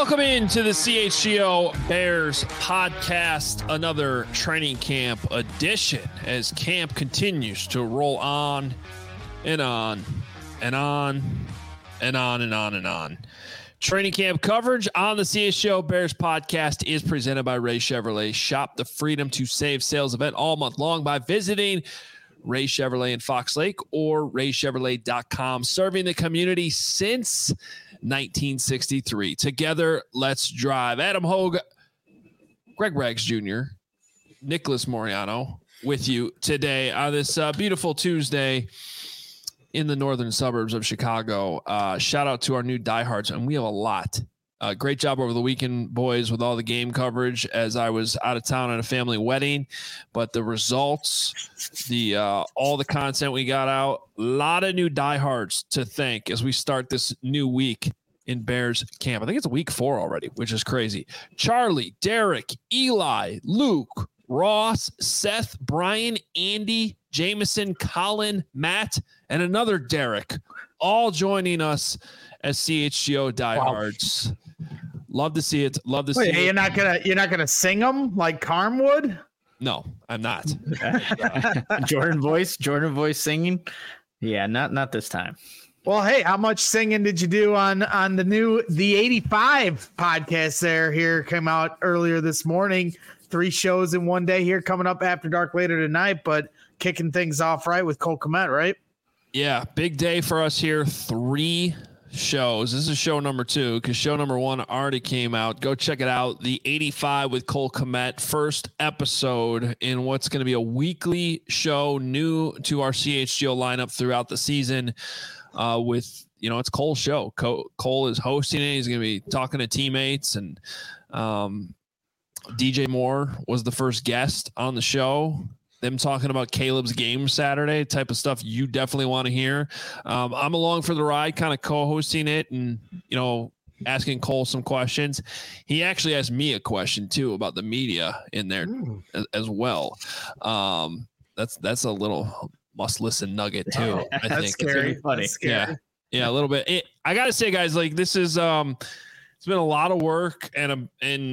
Welcome into the CHGO Bears podcast, another training camp edition as camp continues to roll on and on and on and on and on and on. Training camp coverage on the CHGO Bears podcast is presented by Ray Chevrolet. Shop the Freedom to Save sales event all month long by visiting Ray Chevrolet in Fox Lake or raychevrolet.com, serving the community since 1963. Together, let's drive. Adam Hogue, Greg Rags Jr., Nicholas Moriano with you today on this beautiful Tuesday in the northern suburbs of Chicago. Shout out to our new diehards, and we have a lot. Great job over the weekend, boys, with all the game coverage as I was out of town at a family wedding. But the results, all the content we got out, a lot of new diehards to thank as we start this new week in Bears camp. I think it's week 4 already, which is crazy. Charlie, Derek, Eli, Luke, Ross, Seth, Brian, Andy, Jameson, Colin, Matt, and another Derek, all joining us as CHGO diehards. Wow. Love to see it. Love to see it. You're not gonna sing them like Carm would? No, I'm not. Jordan voice singing. Yeah, not this time. Well, hey, how much singing did you do on the 85 podcast here came out earlier this morning. 3 shows in one day here coming up after dark later tonight, but kicking things off right with Cole Kmet, right? Yeah, big day for us here. 3 shows. This is show number 2 because show number 1 already came out. Go check it out. The 85 with Cole Kmet, first episode in what's going to be a weekly show, new to our CHGO lineup throughout the season. With it's Cole's show. Cole is hosting it. He's going to be talking to teammates, and DJ Moore was the first guest on the show. Them talking about Caleb's game Saturday, type of stuff you definitely want to hear. I'm along for the ride, kind of co-hosting it and, asking Cole some questions. He actually asked me a question too about the media in there as well. That's a little must listen nugget too. I think scary. It's funny. Scary. Yeah, a little bit. I got to say, guys, like this is, it's been a lot of work but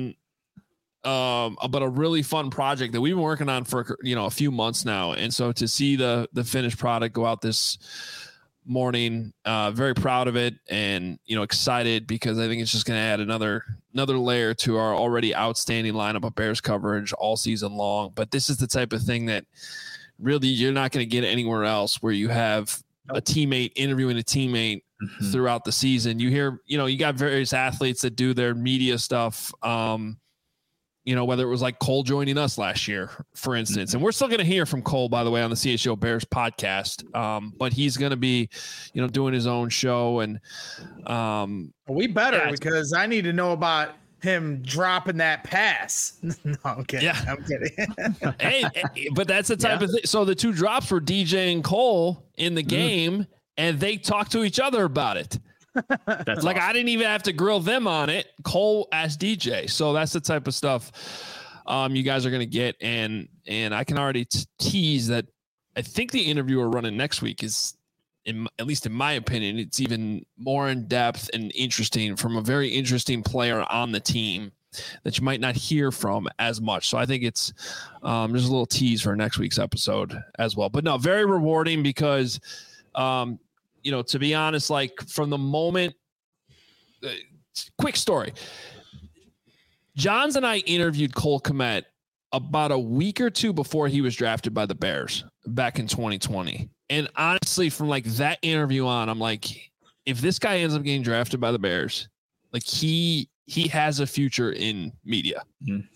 a really fun project that we've been working on for a few months now, and so to see the finished product go out this morning, very proud of it, and excited because I think it's just going to add another layer to our already outstanding lineup of Bears coverage all season long. But this is the type of thing that really you're not going to get anywhere else, where you have a teammate interviewing a teammate throughout the season. You hear you got various athletes that do their media stuff. Whether it was like Cole joining us last year, for instance, and we're still going to hear from Cole, by the way, on the CHGO Bears podcast. But he's going to be, doing his own show, and we better because I need to know about him dropping that pass. No, I'm kidding. Yeah. I'm kidding. hey, but that's the type of thing. So the 2 drops were DJ and Cole in the game, and they talked to each other about it. That's like awesome. I didn't even have to grill them on it. Cole asked DJ. So that's the type of stuff you guys are going to get. And I can already tease that I think the interview we're running next week is, at least in my opinion, it's even more in depth and interesting from a very interesting player on the team that you might not hear from as much. So I think it's just a little tease for next week's episode as well. But no, very rewarding because to be honest, like from the moment, quick story. Johns and I interviewed Cole Kmet about a week or 2 before he was drafted by the Bears back in 2020. And honestly, from like that interview on, I'm like, if this guy ends up getting drafted by the Bears, like he has a future in media,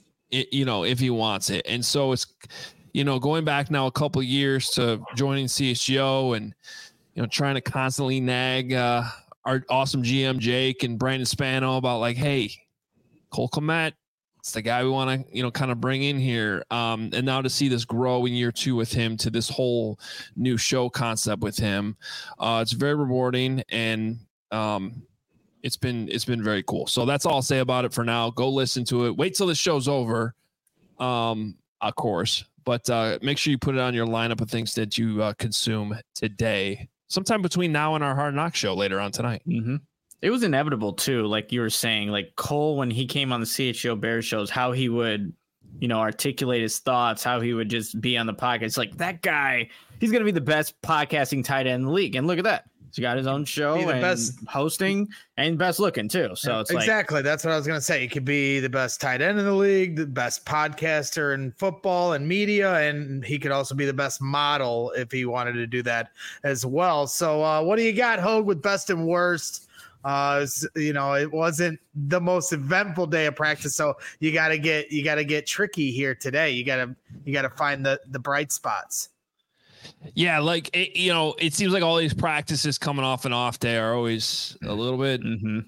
if he wants it. And so it's, going back now a couple of years to joining CHGO and, trying to constantly nag our awesome GM Jake and Brandon Spano about like, hey, Cole Kmet, it's the guy we want to, kind of bring in here. And now to see this grow in year 2 with him to this whole new show concept with him, it's very rewarding, and it's been very cool. So that's all I'll say about it for now. Go listen to it. Wait till the show's over, of course, but make sure you put it on your lineup of things that you consume today, sometime between now and our Hard Knock show later on tonight. It was inevitable too. Like you were saying, like Cole, when he came on the CHGO Bears shows, how he would, articulate his thoughts, how he would just be on the podcast. It's like that guy, he's going to be the best podcasting tight end in the league. And look at that. He's got his own show and best hosting and best looking too. So it's exactly. That's what I was going to say. He could be the best tight end in the league, the best podcaster in football and media. And he could also be the best model if he wanted to do that as well. So what do you got, Hogue, with best and worst? It wasn't the most eventful day of practice, so you got to get tricky here today. You got to find the bright spots. Yeah, like it seems like all these practices coming off an off day are always a little bit,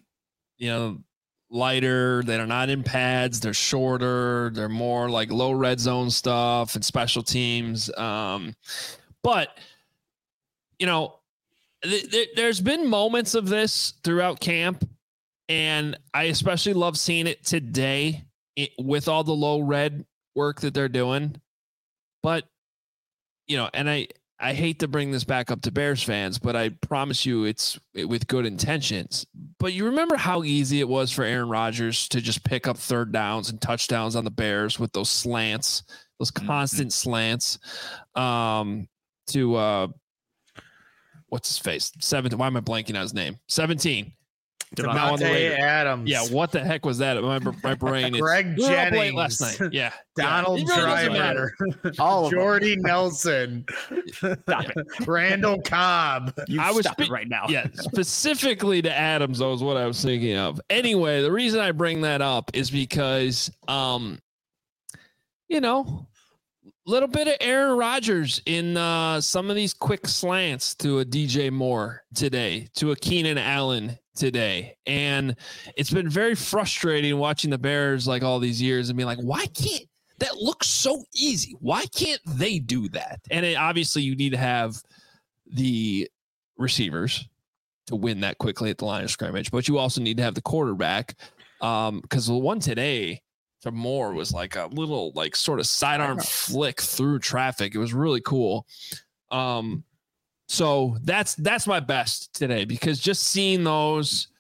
lighter. They're not in pads. They're shorter. They're more like low red zone stuff and special teams. But there's been moments of this throughout camp, and I especially love seeing it today with all the low red work that they're doing. But, and I hate to bring this back up to Bears fans, but I promise you it's with good intentions. But you remember how easy it was for Aaron Rodgers to just pick up third downs and touchdowns on the Bears with those slants, those constant slants to what's his face? 17. Why am I blanking on his name? 17. Davante Adams. Yeah, what the heck was that? My brain is Greg Jennings last night. Yeah, Donald Driver, Jordy Nelson, Randall Cobb. I was right now. Yeah, specifically to Adams, that was what I was thinking of. Anyway, the reason I bring that up is because, little bit of Aaron Rodgers in some of these quick slants to a DJ Moore today, to a Keenan Allen today. And it's been very frustrating watching the Bears like all these years and being like, why can't that look so easy? Why can't they do that? And obviously you need to have the receivers to win that quickly at the line of scrimmage, but you also need to have the quarterback because the one today to Moore was like a little like sort of sidearm flick through traffic. It was really cool. So that's my best today, because just seeing those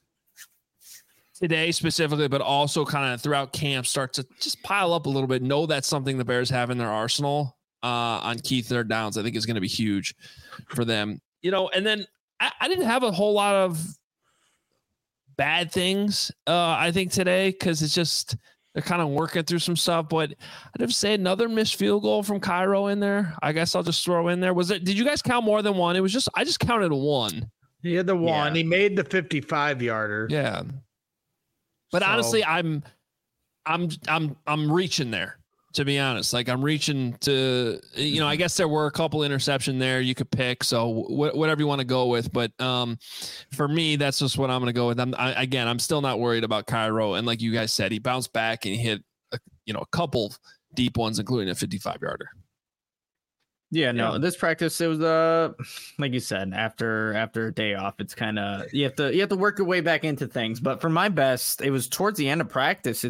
today specifically, but also kind of throughout camp start to just pile up a little bit. Know that's something the Bears have in their arsenal on key third downs. I think is going to be huge for them, and then I didn't have a whole lot of bad things. I think today, cause it's just, they're kind of working through some stuff, but I'd have to say another missed field goal from Cairo in there. I guess I'll just throw in there. Did you guys count more than one? I just counted one. He had the one. Yeah. He made the 55-yarder. Yeah. But honestly, I'm reaching there, to be honest. Like I'm reaching to, I guess there were a couple interception there you could pick. So whatever you want to go with. But for me, that's just what I'm going to go with. I'm still not worried about Cairo. And like you guys said, he bounced back and he hit, a couple deep ones, including a 55-yarder. Yeah, no, this practice, it was like you said, after a day off, it's kind of, you have to work your way back into things. But for my best, it was towards the end of practice.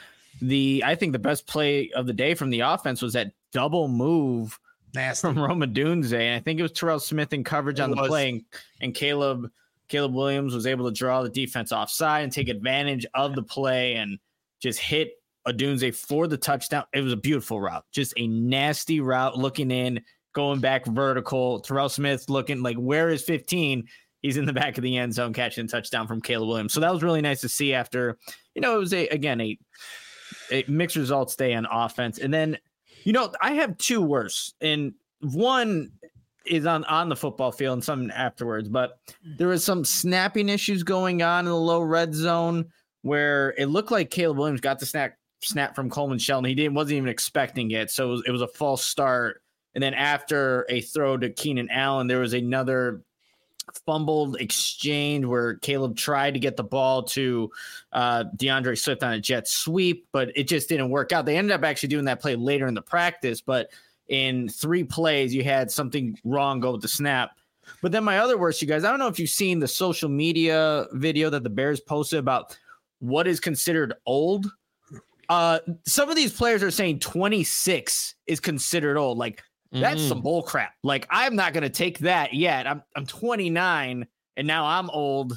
I think the best play of the day from the offense was that double move from Rome Odunze. And I think it was Terrell Smith in coverage on the play, and Caleb Williams was able to draw the defense offside and take advantage of the play and just hit Odunze for the touchdown. It was a beautiful route, just a nasty route, looking in, going back vertical. Terrell Smith looking like, where is 15? He's in the back of the end zone catching a touchdown from Caleb Williams. So that was really nice to see after, it was a mixed results day on offense. And then, I have two worse, and one is on the football field and some afterwards, but there was some snapping issues going on in the low red zone where it looked like Caleb Williams got the snap from Coleman Shelton. He wasn't even expecting it. So it was a false start. And then after a throw to Keenan Allen, there was another fumbled exchange where Caleb tried to get the ball to DeAndre Swift on a jet sweep, but it just didn't work out. They ended up actually doing that play later in the practice, but in 3 plays, you had something wrong go with the snap. But then my other worst, you guys, I don't know if you've seen the social media video that the Bears posted about what is considered old. Some of these players are saying 26 is considered old. Like, that's some bull crap. Like, I'm not going to take that yet. I'm 29 and now I'm old.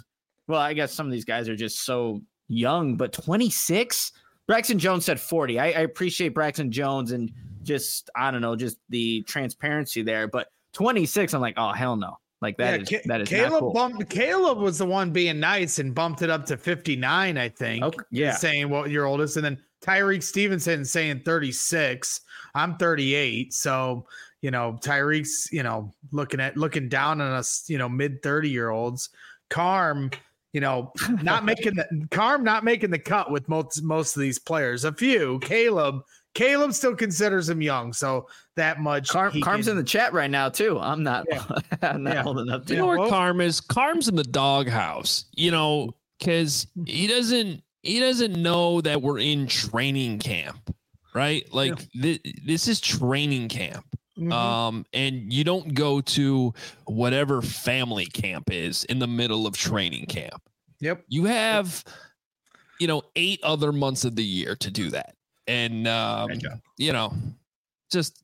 well, I guess some of these guys are just so young, but 26. Braxton Jones said 40. I appreciate Braxton Jones and just, I don't know, just the transparency there. But 26, I'm like, oh, hell no. Like that is Caleb not cool. Caleb was the one being nice and bumped it up to 59, I think. Okay, yeah. Saying what your oldest. And then Tyreek Stevenson saying 36. I'm 38. So, Tyreek's, looking down on us, mid 30-year-olds. Carm, not making the cut with most of these players. A few. Caleb still considers him young, so that much. Carm's in the chat right now too. I'm not. Yeah. I'm not holding up. You know where Carm is? Carm's in the doghouse. Because he doesn't know that we're in training camp, right? Like this is training camp. Mm-hmm. And you don't go to whatever family camp is in the middle of training camp. Yep. You have, 8 other months of the year to do that. And, just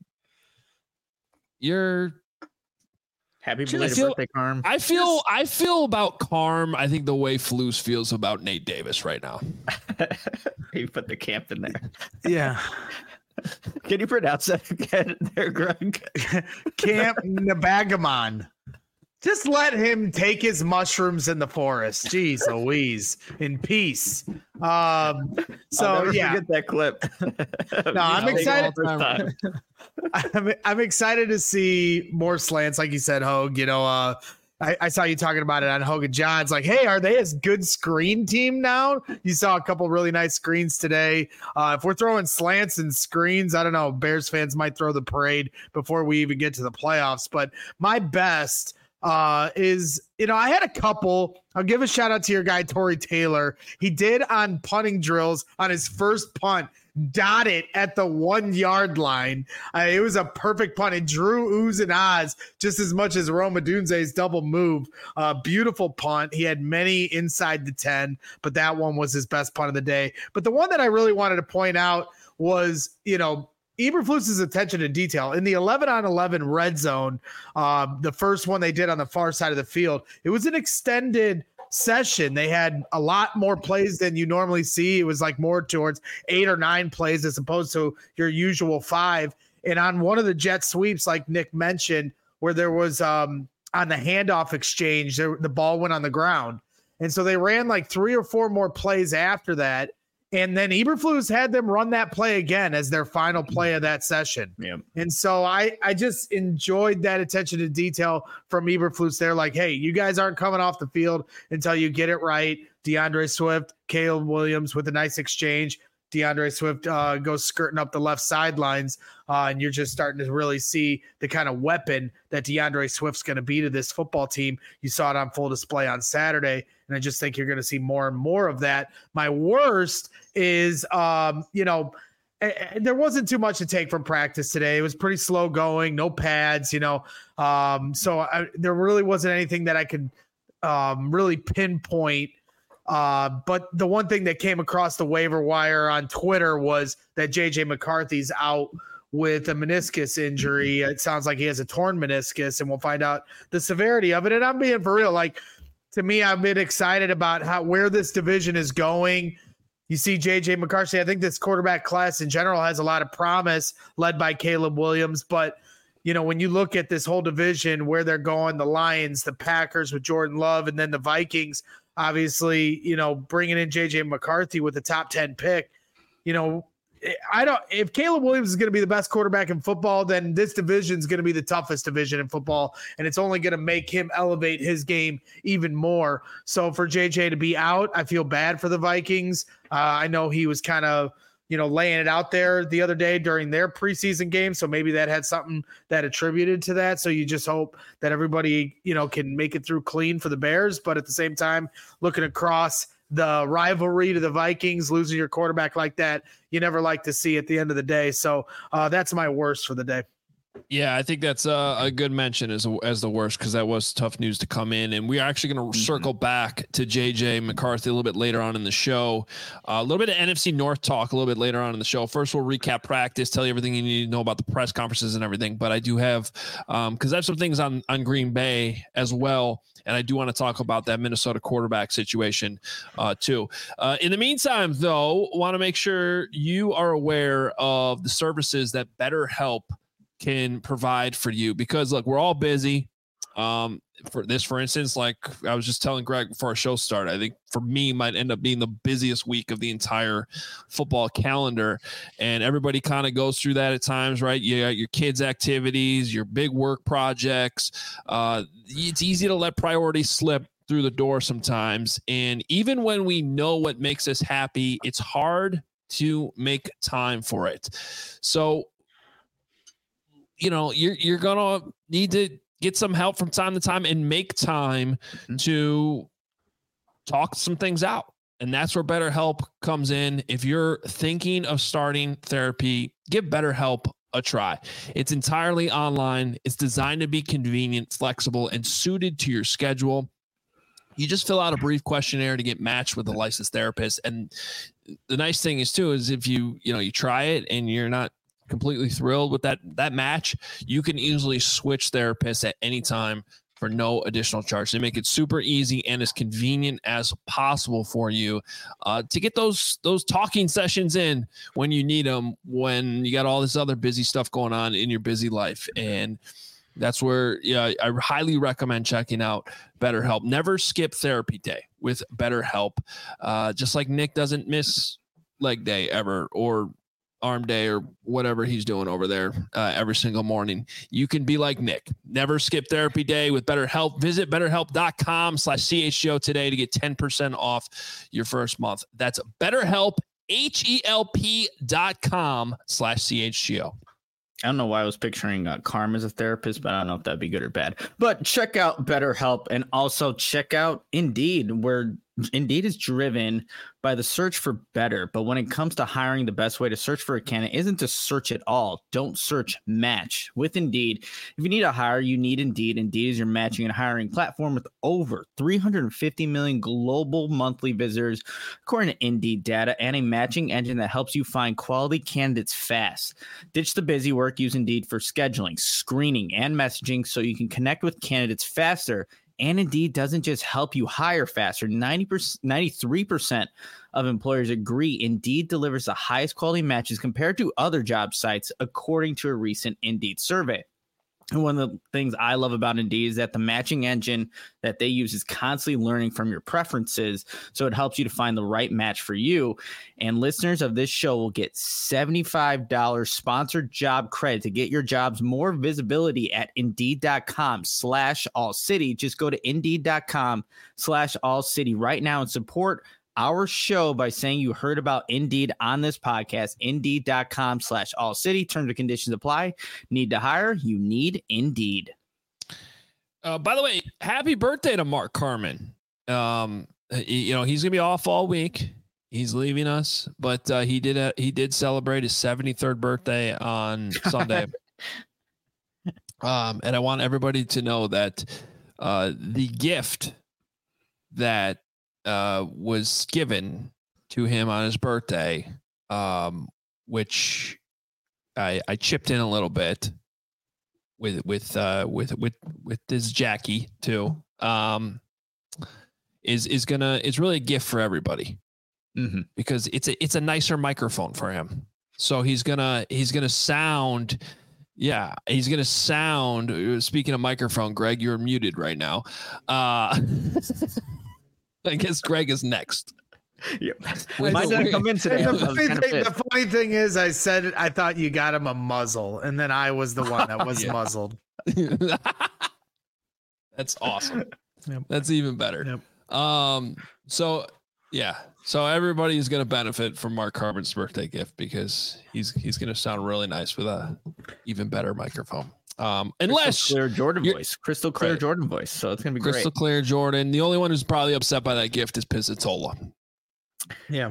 you're happy belated birthday, Carm. I feel about Carm. I think the way Flus feels about Nate Davis right now. You put the camp in there. Yeah. Can you pronounce that again there, Greg? Camp Nabagamon. Just let him take his mushrooms in the forest. Jeez Louise. In peace. I'll never forget that clip. No, I'm excited. I'm excited to see more slants, like you said, Hogue. I saw you talking about it on Hogue and John's. Like, hey, are they a good screen team now? You saw a couple really nice screens today. If we're throwing slants and screens, I don't know. Bears fans might throw the parade before we even get to the playoffs. But my best is, I had a couple. I'll give a shout out to your guy, Tory Taylor. He did on punting drills on his first punt, dot it at the 1 yard line. It was a perfect punt. It drew oohs and ahs just as much as Rome Odunze's double move. Beautiful punt. He had many inside the 10, but that one was his best punt of the day. But the one that I really wanted to point out was, Eberflus's attention to detail in the 11-on-11 red zone. The first one they did on the far side of the field, it was an extended session. They had a lot more plays than you normally see. It was like more towards 8 or 9 plays as opposed to your usual 5. And on one of the jet sweeps, like Nick mentioned, where there was on the handoff exchange, the ball went on the ground. And so they ran like 3 or 4 more plays after that. And then Eberflus had them run that play again as their final play of that session. Yeah. And so I just enjoyed that attention to detail from Eberflus. They're like, hey, you guys aren't coming off the field until you get it right. DeAndre Swift, Caleb Williams with a nice exchange. DeAndre Swift goes skirting up the left sidelines, and you're just starting to really see the kind of weapon that DeAndre Swift's going to be to this football team. You saw it on full display on Saturday, and I just think you're going to see more and more of that. My worst is, there wasn't too much to take from practice today. It was pretty slow going, no pads, there really wasn't anything that I could really pinpoint. But the one thing that came across the waiver wire on Twitter was that JJ McCarthy's out with a meniscus injury. It sounds like he has a torn meniscus, and we'll find out the severity of it. And I'm being for real. Like, to me, I've been excited about where this division is going. You see JJ McCarthy. I think this quarterback class in general has a lot of promise, led by Caleb Williams. But, when you look at this whole division, where they're going, the Lions, the Packers with Jordan Love, and then the Vikings, obviously, bringing in JJ McCarthy with the top 10 pick, if Caleb Williams is going to be the best quarterback in football, then this division is going to be the toughest division in football. And it's only going to make him elevate his game even more. So for JJ to be out, I feel bad for the Vikings. I know he was kind of, laying it out there the other day during their preseason game. So maybe that had something that attributed to that. So you just hope that everybody, can make it through clean for the Bears. But at the same time, looking across the rivalry to the Vikings, losing your quarterback like that, you never like to see at the end of the day. So that's my worst for the day. Yeah, I think that's a good mention as the worst, because that was tough news to come in. And we are actually going to circle back to JJ McCarthy a little bit later on in the show. A little bit of NFC North talk a little bit later on in the show. First, we'll recap practice, tell you everything you need to know about the press conferences and everything. But I do have, because I have some things on Green Bay as well. And I do want to talk about that Minnesota quarterback situation too. In the meantime, though, want to make sure you are aware of the services that BetterHelp can provide for you, because look, we're all busy. For instance, like I was just telling Greg before our show started, I think for me might end up being the busiest week of the entire football calendar, and everybody kind of goes through that at times, right? You got your kids' activities, your big work projects. It's easy to let priorities slip through the door sometimes, and even when we know what makes us happy, it's hard to make time for it. So you're going to need to get some help from time to time and make time to talk some things out. And that's where BetterHelp comes in. If you're thinking of starting therapy, give BetterHelp a try. It's entirely online. It's designed to be convenient, flexible, and suited to your schedule. You just fill out a brief questionnaire to get matched with a licensed therapist. And the nice thing is too, is if you try it and you're not completely thrilled with that match, you can easily switch therapists at any time for no additional charge. They make it super easy and as convenient as possible for you to get those talking sessions in when you need them, when you got all this other busy stuff going on in your busy life. And that's where I highly recommend checking out BetterHelp. Never skip therapy day with BetterHelp. Just like Nick doesn't miss leg day ever, or arm day, or whatever he's doing over there every single morning. You can be like Nick. Never skip therapy day with BetterHelp. Visit BetterHelp.com/CHGO today to get 10% off your first month. That's BetterHelp, HELP.com/CHGO. I don't know why I was picturing Carm as a therapist, but I don't know if that'd be good or bad. But check out BetterHelp, and also check out Indeed, where Indeed is driven by the search for better. But when it comes to hiring, the best way to search for a candidate isn't to search at all. Don't search, match with Indeed. If you need a hire, you need Indeed. Indeed is your matching and hiring platform with over 350 million global monthly visitors, according to Indeed data, and a matching engine that helps you find quality candidates fast. Ditch the busy work. Use Indeed for scheduling, screening, and messaging so you can connect with candidates faster. And Indeed doesn't just help you hire faster. 93% of employers agree Indeed delivers the highest quality matches compared to other job sites, according to a recent Indeed survey. And one of the things I love about Indeed is that the matching engine that they use is constantly learning from your preferences, so it helps you to find the right match for you. And listeners of this show will get $75 sponsored job credit to get your jobs more visibility at Indeed.com/AllCity. Just go to Indeed.com/AllCity right now and support our show by saying you heard about Indeed on this podcast. Indeed.com/AllCity. Terms and conditions apply. Need to hire? You need Indeed. By the way, happy birthday to Mark Carman. He's gonna be off all week. He's leaving us, but he did celebrate his 73rd birthday on Sunday. And I want everybody to know that the gift that was given to him on his birthday, which I chipped in a little bit with this Jackie too, is really a gift for everybody, because it's a nicer microphone for him. So he's gonna sound. Yeah, he's going to sound, speaking of microphone, Greg, you're muted right now. I guess Greg is next. Yep. Mine didn't come in today. The funny thing is, I said I thought you got him a muzzle, and then I was the one that was muzzled. That's awesome. Yep. That's even better. Yep. So everybody's going to benefit from Mark Carman's birthday gift, because he's going to sound really nice with a even better microphone. Unless crystal clear Jordan voice. So it's going to be crystal clear Jordan. The only one who's probably upset by that gift is Pizzatola. Yeah.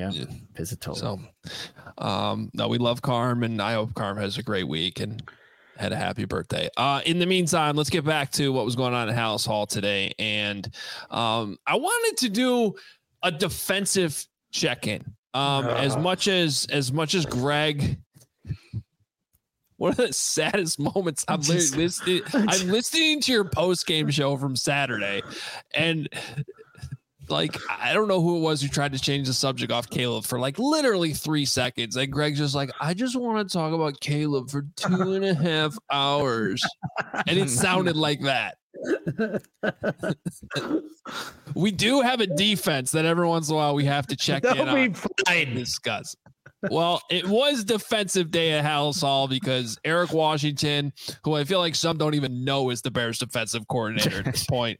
Pizzatola. So, no, we love Carm, and I hope Carm has a great week and had a happy birthday. In the meantime, let's get back to what was going on at Halas Hall today. And I wanted to do a defensive check-in. As much as Greg, one of the saddest moments I'm listening to your post-game show from Saturday, and like, I don't know who it was who tried to change the subject off Caleb for like literally 3 seconds. And Greg's just like, I just want to talk about Caleb for 2.5 hours. And it sounded like that. We do have a defense that every once in a while we have to check in on and discuss. Well, it was defensive day at Halas Hall because Eric Washington, who I feel like some don't even know is the Bears defensive coordinator at this point,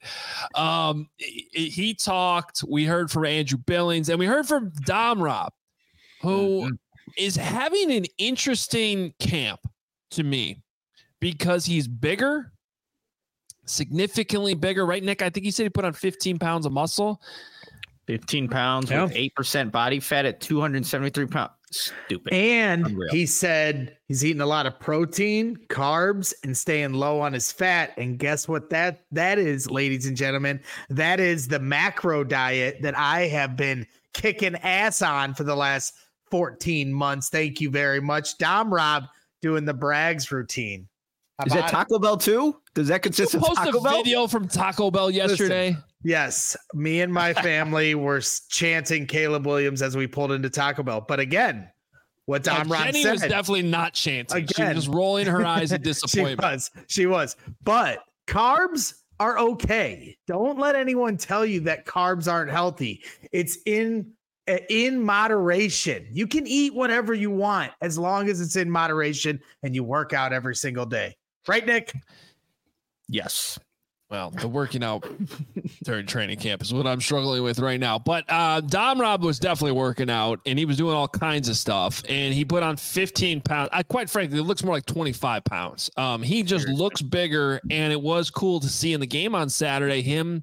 he talked. We heard from Andrew Billings and we heard from Dom Rob, who is having an interesting camp to me because he's bigger, significantly bigger, right, Nick? I think he said he put on 15 pounds of muscle. 15 pounds with 8% body fat at 273 pounds. Stupid. And Unreal. He said he's eating a lot of protein, carbs, and staying low on his fat. And guess what that is, ladies and gentlemen? That is the macro diet that I have been kicking ass on for the last 14 months. Thank you very much. Dom Rob doing the Braggs routine. Is that Taco Bell too? Does that consist of Taco Bell? Video from Taco Bell yesterday. Listen, yes, me and my family were chanting Caleb Williams as we pulled into Taco Bell. But again, what Dom Rob Jenny said was definitely not chanting. Again, she was just rolling her eyes in disappointment. She was. But carbs are okay. Don't let anyone tell you that carbs aren't healthy. It's in moderation. You can eat whatever you want as long as it's in moderation and you work out every single day. Right, Nick? Yes. Well, the working out during training camp is what I'm struggling with right now. But Dom Rob was definitely working out, and he was doing all kinds of stuff. And he put on 15 pounds. Quite frankly, it looks more like 25 pounds. He just looks bigger, and it was cool to see in the game on Saturday him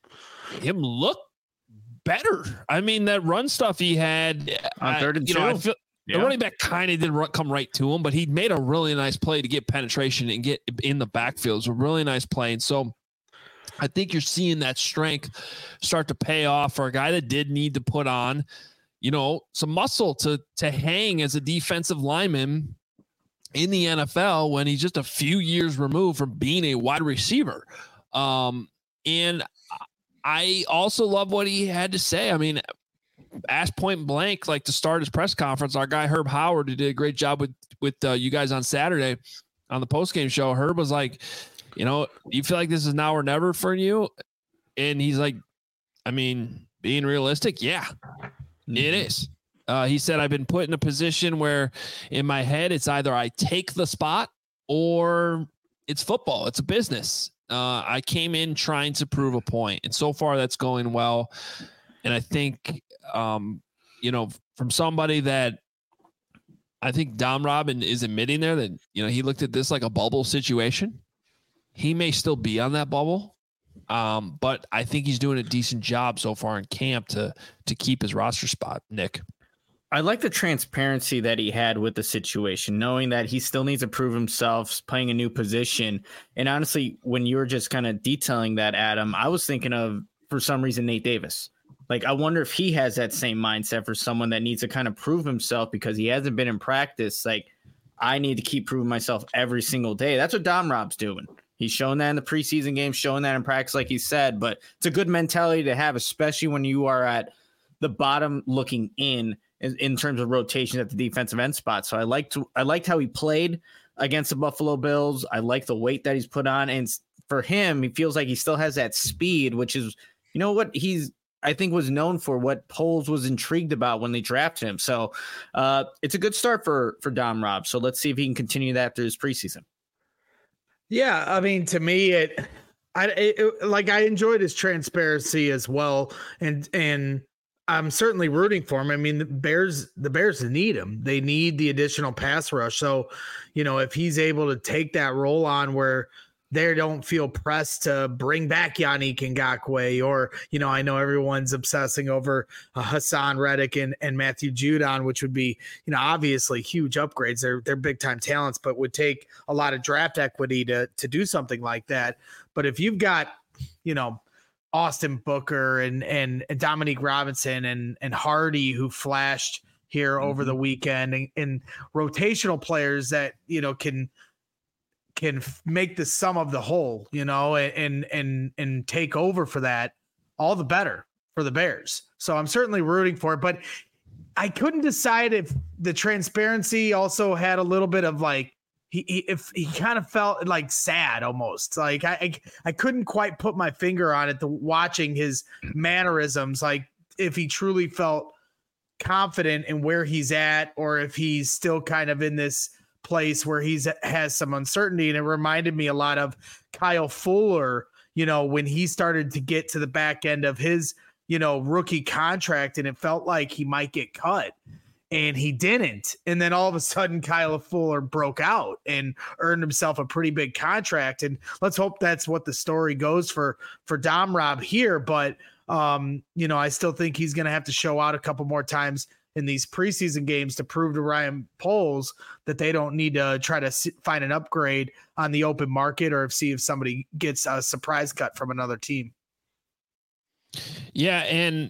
look better. I mean, that run stuff he had on 3rd and 2. I feel the running back kind of didn't come right to him, but he made a really nice play to get penetration and get in the backfield. It was a really nice play. And so I think you're seeing that strength start to pay off for a guy that did need to put on, some muscle to hang as a defensive lineman in the NFL when he's just a few years removed from being a wide receiver. And I also love what he had to say. I mean, asked point blank, like to start his press conference, our guy Herb Howard, who did a great job with you guys on Saturday on the postgame show. Herb was like, you feel like this is now or never for you? And he's like, I mean, being realistic, yeah, it is. He said, I've been put in a position where in my head, it's either I take the spot or it's football. It's a business. I came in trying to prove a point, and so far that's going well. And I think, from somebody that I think Dom Robin is admitting there that, he looked at this like a bubble situation. He may still be on that bubble, but I think he's doing a decent job so far in camp to keep his roster spot, Nick. I like the transparency that he had with the situation, knowing that he still needs to prove himself, playing a new position. And honestly, when you were just kind of detailing that, Adam, I was thinking of, for some reason, Nate Davis. Like, I wonder if he has that same mindset for someone that needs to kind of prove himself because he hasn't been in practice. Like, I need to keep proving myself every single day. That's what Dom Rob's doing. He's shown that in the preseason game, showing that in practice, like he said. But it's a good mentality to have, especially when you are at the bottom looking in terms of rotation at the defensive end spot. So I liked how he played against the Buffalo Bills. I like the weight that he's put on. And for him, he feels like he still has that speed, which is, what I think was known for, what Poles was intrigued about when they drafted him. So it's a good start for Dom Rob. So let's see if he can continue that through his preseason. Yeah, I mean, to me, I enjoyed his transparency as well, and I'm certainly rooting for him. I mean, the Bears need him. They need the additional pass rush. So, if he's able to take that role on where they don't feel pressed to bring back Yannick Ngakoue, or, I know everyone's obsessing over Hassan Reddick and Matthew Judon, which would be, obviously huge upgrades. They're big time talents, but would take a lot of draft equity to do something like that. But if you've got, Austin Booker and Dominique Robinson and Hardy, who flashed here over the weekend, and rotational players that, can make the sum of the whole, and take over for that, all the better for the Bears. So I'm certainly rooting for it, but I couldn't decide if the transparency also had a little bit of like, if he kind of felt like sad almost. Like I couldn't quite put my finger on it, watching his mannerisms, like if he truly felt confident in where he's at, or if he's still kind of in this place where has some uncertainty. And it reminded me a lot of Kyle Fuller, when he started to get to the back end of his, rookie contract, and it felt like he might get cut, and he didn't. And then all of a sudden Kyle Fuller broke out and earned himself a pretty big contract. And let's hope that's what the story goes for Dom Rob here. But I still think he's going to have to show out a couple more times in these preseason games to prove to Ryan Poles that they don't need to try to find an upgrade on the open market, or see if somebody gets a surprise cut from another team. Yeah. And,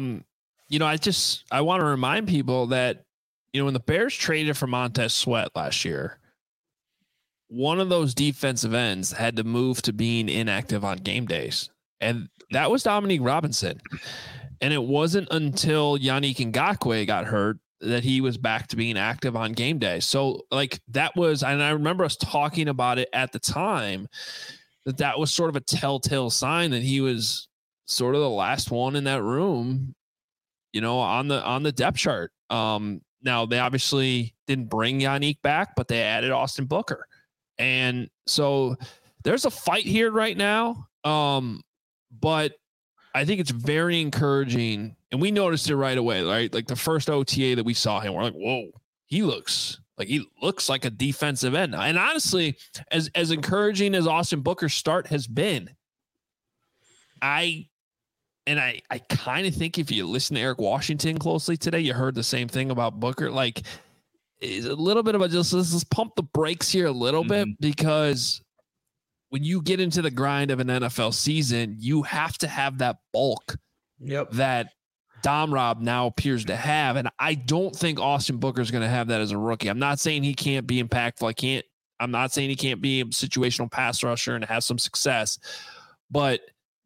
I want to remind people that, when the Bears traded for Montez Sweat last year, one of those defensive ends had to move to being inactive on game days. And that was Dominique Robinson. And it wasn't until Yannick Ngakoue got hurt that he was back to being active on game day. So that was, and I remember us talking about it at the time, that was sort of a telltale sign that he was sort of the last one in that room, on the depth chart. Now they obviously didn't bring Yannick back, but they added Austin Booker. And so there's a fight here right now. But I think it's very encouraging, and we noticed it right away, right? Like the first OTA that we saw him, we're like, whoa, he looks like a defensive end. And honestly, as encouraging as Austin Booker's start has been, I kind of think if you listen to Eric Washington closely today, you heard the same thing about Booker. Like, it's a little bit of let's pump the brakes here a little bit, because when you get into the grind of an NFL season, you have to have that bulk that Dom Rob now appears to have. And I don't think Austin Booker is going to have that as a rookie. I'm not saying he can't be impactful. I'm not saying he can't be a situational pass rusher and have some success, but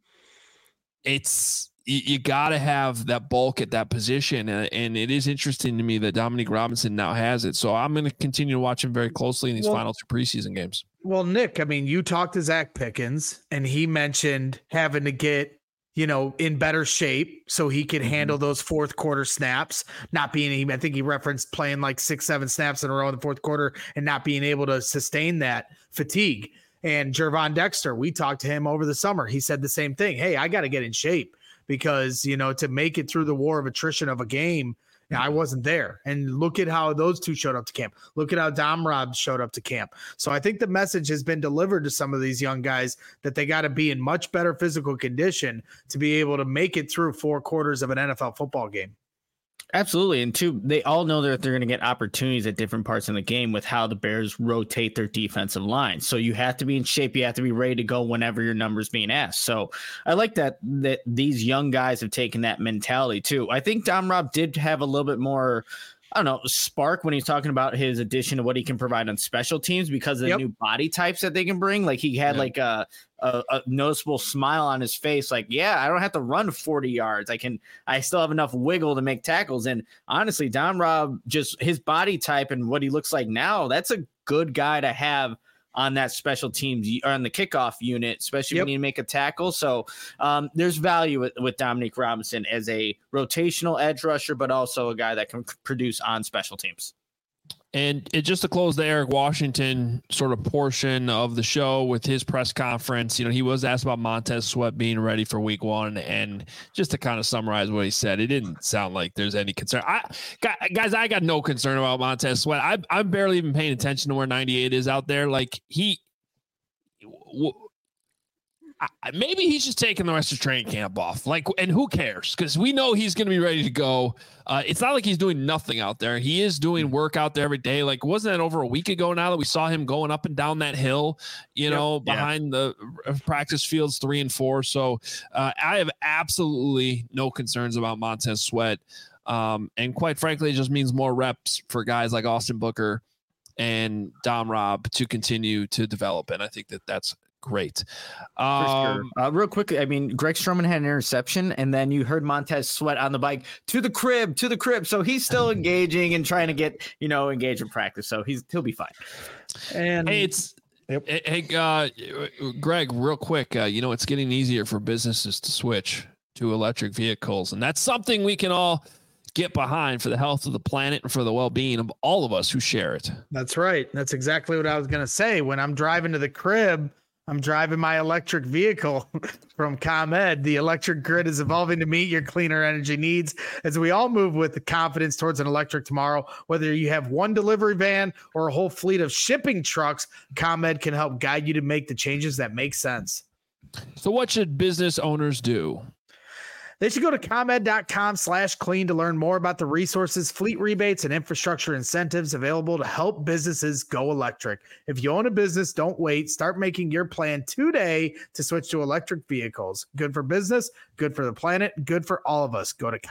you got to have that bulk at that position. And it is interesting to me that Dominique Robinson now has it. So I'm going to continue to watch him very closely in these final two preseason games. Well, Nick, I mean, you talked to Zach Pickens, and he mentioned having to get, in better shape so he could handle those fourth quarter snaps, not being, I think he referenced playing like 6-7 snaps in a row in the fourth quarter and not being able to sustain that fatigue. And Gervon Dexter, we talked to him over the summer. He said the same thing. Hey, I got to get in shape because, to make it through the war of attrition of a game, I wasn't there. And look at how those two showed up to camp. Look at how Dom Rob showed up to camp. So I think the message has been delivered to some of these young guys that they got to be in much better physical condition to be able to make it through 4 quarters of an NFL football game. Absolutely. And two, they all know that they're going to get opportunities at different parts in the game with how the Bears rotate their defensive line. So you have to be in shape. You have to be ready to go whenever your number's being asked. So I like that these young guys have taken that mentality too. I think Dom Rob did have a little bit more, spark when he's talking about his addition to what he can provide on special teams because of the new body types that they can bring. Like he had like a noticeable smile on his face. Like, I don't have to run 40 yards. I still have enough wiggle to make tackles. And honestly, Dom Rob, just his body type and what he looks like now, that's a good guy to have on that special teams or on the kickoff unit, especially when you make a tackle. So there's value with Dominique Robinson as a rotational edge rusher, but also a guy that can produce on special teams. And just to close the Eric Washington sort of portion of the show with his press conference, he was asked about Montez Sweat being ready for week 1. And just to kind of summarize what he said, it didn't sound like there's any concern. I got no concern about Montez Sweat. I'm barely even paying attention to where 98 is out there. Like maybe he's just taking the rest of training camp off. And who cares? Because we know he's going to be ready to go. It's not like he's doing nothing out there. He is doing work out there every day. Wasn't that over a week ago now that we saw him going up and down that hill, behind the practice fields 3 and 4. So I have absolutely no concerns about Montez Sweat. And quite frankly, it just means more reps for guys like Austin Booker and Dom Robb to continue to develop. And I think that's great. For sure. Real quickly, I mean, Greg Stroman had an interception, and then you heard Montez Sweat on the bike to the crib. So he's still engaging and trying to get, engaged in practice. So he'll be fine. And Greg, real quick, it's getting easier for businesses to switch to electric vehicles, and that's something we can all get behind for the health of the planet and for the well-being of all of us who share it. That's right. That's exactly what I was going to say. When I'm driving to the crib, I'm driving my electric vehicle from ComEd. The electric grid is evolving to meet your cleaner energy needs as we all move with the confidence towards an electric tomorrow. Whether you have one delivery van or a whole fleet of shipping trucks, ComEd can help guide you to make the changes that make sense. So what should business owners do? They should go to ComEd.com/clean to learn more about the resources, fleet rebates, and infrastructure incentives available to help businesses go electric. If you own a business, don't wait. Start making your plan today to switch to electric vehicles. Good for business, good for the planet, good for all of us. Go to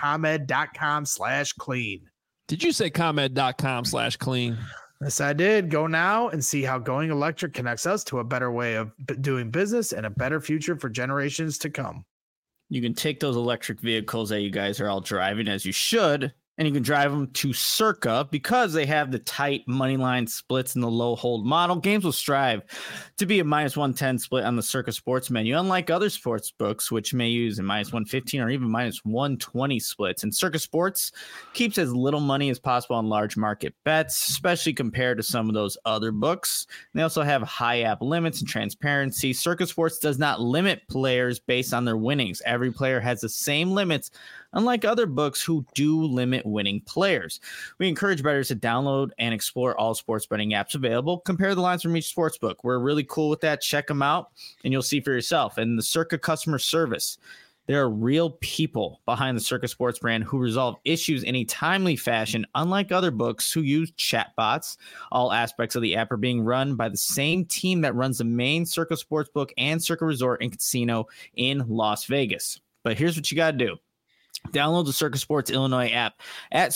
ComEd.com/clean. Did you say ComEd.com/clean? Yes, I did. Go now and see how going electric connects us to a better way of doing business and a better future for generations to come. You can take those electric vehicles that you guys are all driving, as you should, and you can drive them to Circa because they have the tight money line splits and the low hold model. Games will strive to be a -110 split on the Circa sports menu, unlike other sports books, which may use a -115 or even -120 splits. And Circa Sports keeps as little money as possible on large market bets, especially compared to some of those other books. And they also have high app limits and transparency. Circa Sports does not limit players based on their winnings. Every player has the same limits, unlike other books who do limit winning players. We encourage bettors to download and explore all sports betting apps available. Compare the lines from each sports book. We're really cool with that. Check them out, and you'll see for yourself. And the Circa customer service, there are real people behind the Circa Sports brand who resolve issues in a timely fashion, unlike other books who use chatbots. All aspects of the app are being run by the same team that runs the main Circa Sportsbook and Circa Resort and Casino in Las Vegas. But here's what you got to do. Download the Circa Sports Illinois app at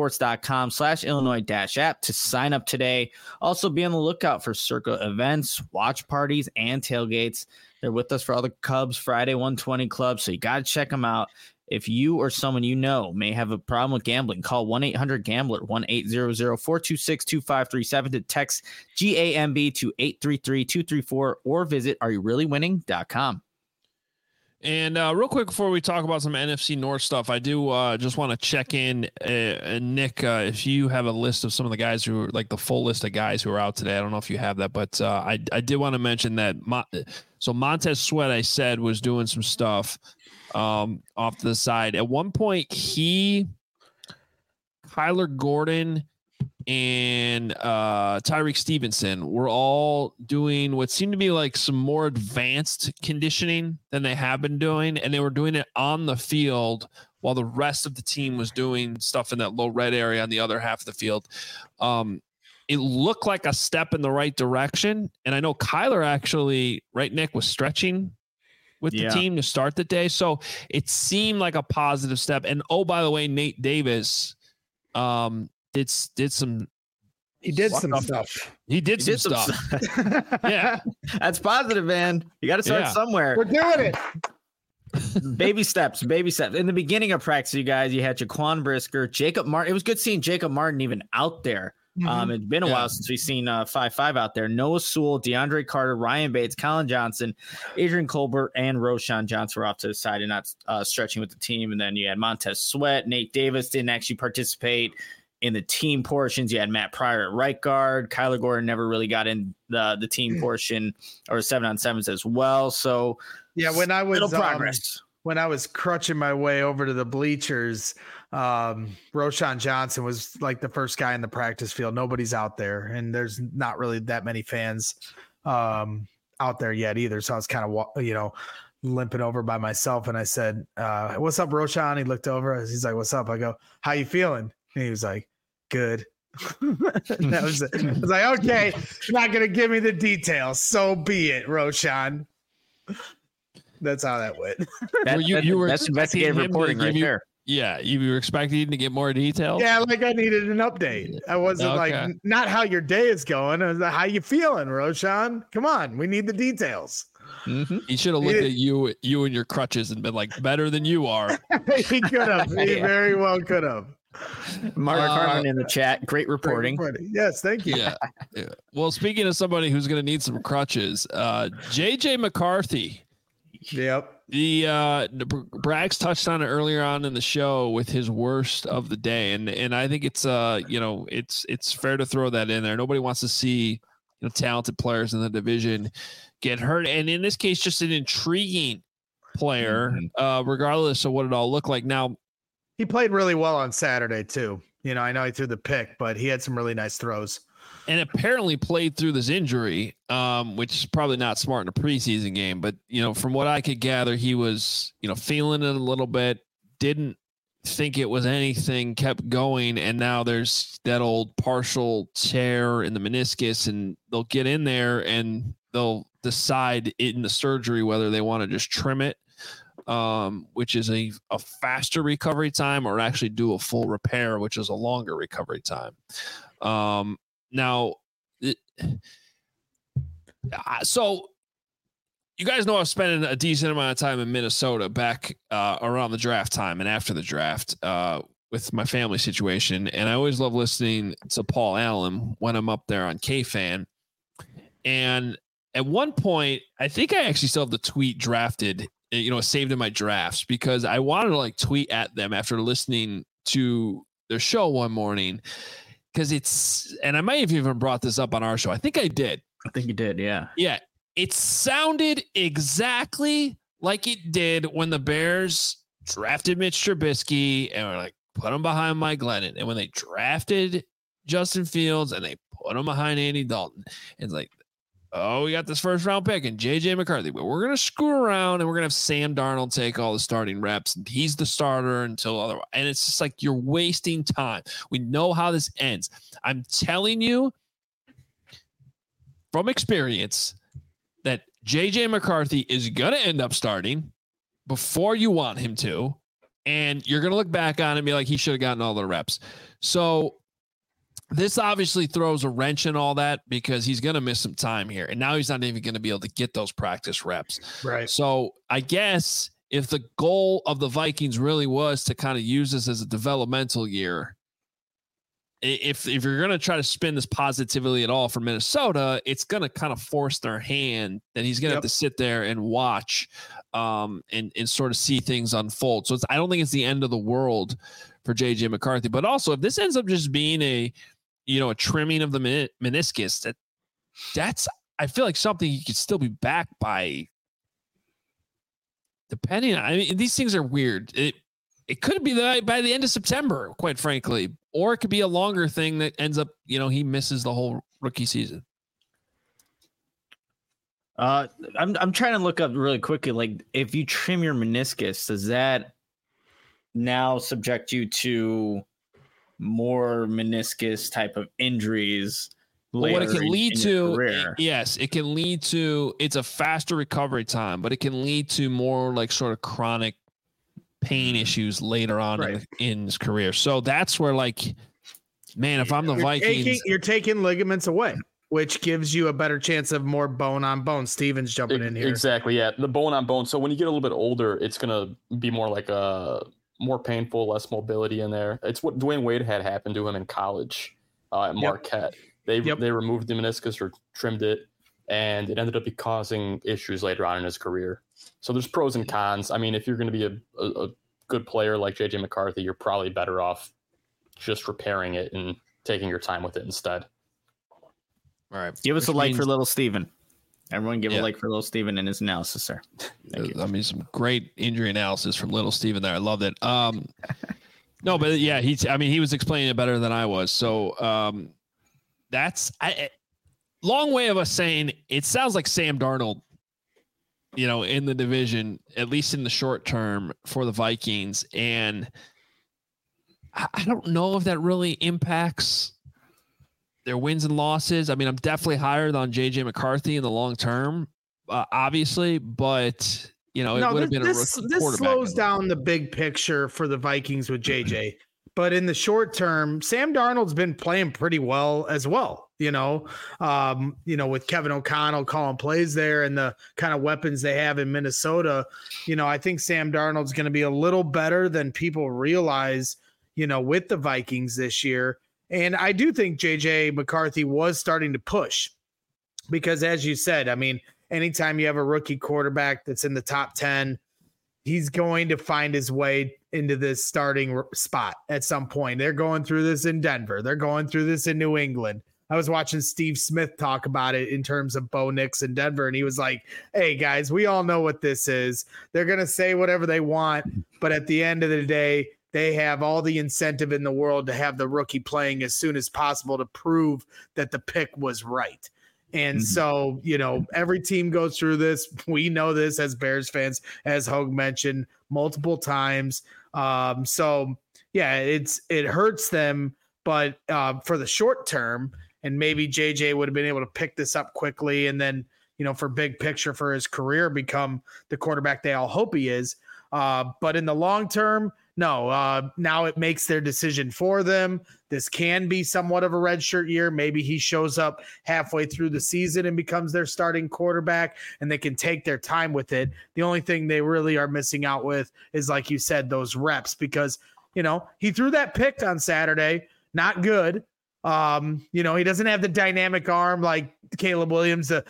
circasports.com/Illinois-app to sign up today. Also, be on the lookout for Circa events, watch parties, and tailgates. They're with us for all the Cubs Friday 120 clubs, so you got to check them out. If you or someone you know may have a problem with gambling, call 1-800-GAMBLER, 1-800-426-2537 to text GAMB to 833-234 or visit areyoureallywinning.com. And real quick before we talk about some NFC North stuff, I do just want to check in, Nick, if you have a list of some of the guys who are like the full list of guys who are out today. I don't know if you have that, but I did want to mention that. So Montez Sweat, I said, was doing some stuff off to the side. At one point, Kyler Gordon and Tyreek Stevenson were all doing what seemed to be like some more advanced conditioning than they have been doing, and they were doing it on the field while the rest of the team was doing stuff in that low red area on the other half of the field. It looked like a step in the right direction, and I know Kyler actually, right, Nick, was stretching with the team to start the day, so it seemed like a positive step. And oh, by the way, Nate Davis did some stuff. He did some stuff. Yeah. That's positive, man. You got to start somewhere. We're doing it. Baby steps. In the beginning of practice, you guys, you had Jaquan Brisker, Jacob Martin. It was good seeing Jacob Martin even out there. It's been a while since we've seen 5-5 out there. Noah Sewell, DeAndre Carter, Ryan Bates, Colin Johnson, Adrian Colbert, and Roshan Johnson were off to the side and not stretching with the team. And then you had Montez Sweat. Nate Davis didn't actually participate in the team portions. You had Matt Pryor at right guard. Kyler Gordon never really got in the team portion or 7-on-7s as well. So yeah, when I was progress. When I was crutching my way over to the bleachers, Roshan Johnson was like the first guy in the practice field. Nobody's out there, and there's not really that many fans out there yet either. So I was kind of, limping over by myself. And I said, what's up, Roshan? He looked over. He's like, what's up? I go, how you feeling? And he was like, good. That was it. I was like, okay, you're not going to give me the details. So be it, Roshan. That's how that went. That's investigative reporting right there. Yeah, you were expecting to get more details? Yeah, like I needed an update. I wasn't like, not how your day is going. I was like, how you feeling, Roshan? Come on, we need the details. Mm-hmm. He should have looked at you and your crutches and been like, better than you are. He could have. He very well could have. Mark Harmon in the chat. Great reporting. Yes, thank you. Yeah. Well, speaking of somebody who's going to need some crutches, JJ McCarthy. Yep. Braggs touched on it earlier on in the show with his worst of the day, and I think it's it's fair to throw that in there. Nobody wants to see talented players in the division get hurt, and in this case, just an intriguing player, regardless of what it all looked like. Now, he played really well on Saturday too. I know he threw the pick, but he had some really nice throws. And apparently played through this injury, which is probably not smart in a preseason game. But, from what I could gather, he was, feeling it a little bit, didn't think it was anything, kept going. And now there's that old partial tear in the meniscus, and they'll get in there and they'll decide in the surgery whether they want to just trim it, which is a faster recovery time, or actually do a full repair, which is a longer recovery time. Now, so you guys know I was spending a decent amount of time in Minnesota back around the draft time and after the draft with my family situation. And I always love listening to Paul Allen when I'm up there on KFan. And at one point, I think I actually still have the tweet drafted, saved in my drafts, because I wanted to tweet at them after listening to their show one morning. Because and I might have even brought this up on our show. I think I did. I think you did, yeah. Yeah. It sounded exactly like it did when the Bears drafted Mitch Trubisky and were like, put him behind Mike Glennon. And when they drafted Justin Fields and they put him behind Andy Dalton. It's like, we got this first round pick and JJ McCarthy, but we're going to screw around and we're going to have Sam Darnold take all the starting reps, and he's the starter until otherwise. And it's just like, you're wasting time. We know how this ends. I'm telling you from experience that JJ McCarthy is going to end up starting before you want him to. And you're going to look back on it and be like, he should have gotten all the reps. So this obviously throws a wrench in all that, because he's going to miss some time here. And now he's not even going to be able to get those practice reps. Right. So I guess if the goal of the Vikings really was to kind of use this as a developmental year, if you're going to try to spin this positively at all for Minnesota, it's going to kind of force their hand that he's going to have to sit there and watch and sort of see things unfold. So I don't think it's the end of the world for JJ McCarthy. But also, if this ends up just being a trimming of the meniscus, that's, I feel like something he could still be back by, depending on, these things are weird. It could be by the end of September, quite frankly, or it could be a longer thing that ends up, he misses the whole rookie season. I'm trying to look up really quickly. Like, if you trim your meniscus, does that now subject you to more meniscus type of injuries? What it can lead to, yes, it can lead to, it's a faster recovery time, but it can lead to more sort of chronic pain issues later on in his career. So that's where, man, if I'm the Vikings, you're taking ligaments away, which gives you a better chance of more bone on bone. Steven's jumping in here. Exactly. Yeah. The bone on bone. So when you get a little bit older, it's going to be more like more painful, less mobility in there. It's what Dwayne Wade had happened to him in college at Marquette. They removed the meniscus or trimmed it, and it ended up causing issues later on in his career. So there's pros and cons. If you're going to be a good player like JJ McCarthy, you're probably better off just repairing it and taking your time with it instead. All right. Give us a like for little Steven. Everyone give a like for little Steven and his analysis, sir. Thank you. Some great injury analysis from little Steven there. I loved it. No, but yeah, he was explaining it better than I was. So long way of us saying it sounds like Sam Darnold, in the division, at least in the short term for the Vikings. And I don't know if that really impacts their wins and losses. I mean, I'm definitely higher on JJ McCarthy in the long term, obviously, but it would have been a rookie quarterback. This slows down the big picture for the Vikings with JJ. But in the short term, Sam Darnold's been playing pretty well as well, with Kevin O'Connell calling plays there and the kind of weapons they have in Minnesota. I think Sam Darnold's going to be a little better than people realize, with the Vikings this year. And I do think JJ McCarthy was starting to push because, as you said, I mean, anytime you have a rookie quarterback that's in the top 10, he's going to find his way into this starting spot at some point. They're going through this in Denver. They're going through this in New England. I was watching Steve Smith talk about it in terms of Bo Nix in Denver, and he was like, hey, guys, we all know what this is. They're going to say whatever they want, but at the end of the day, they have all the incentive in the world to have the rookie playing as soon as possible to prove that the pick was right. And so, every team goes through this. We know this as Bears fans, as Hogue mentioned multiple times. So yeah, it hurts them, but for the short term, and maybe JJ would have been able to pick this up quickly. And then, for big picture for his career, become the quarterback they all hope he is. But in the long term, no, now it makes their decision for them. This can be somewhat of a redshirt year. Maybe he shows up halfway through the season and becomes their starting quarterback, and they can take their time with it. The only thing they really are missing out with is, like you said, those reps, because, he threw that pick on Saturday. Not good. He doesn't have the dynamic arm like Caleb Williams to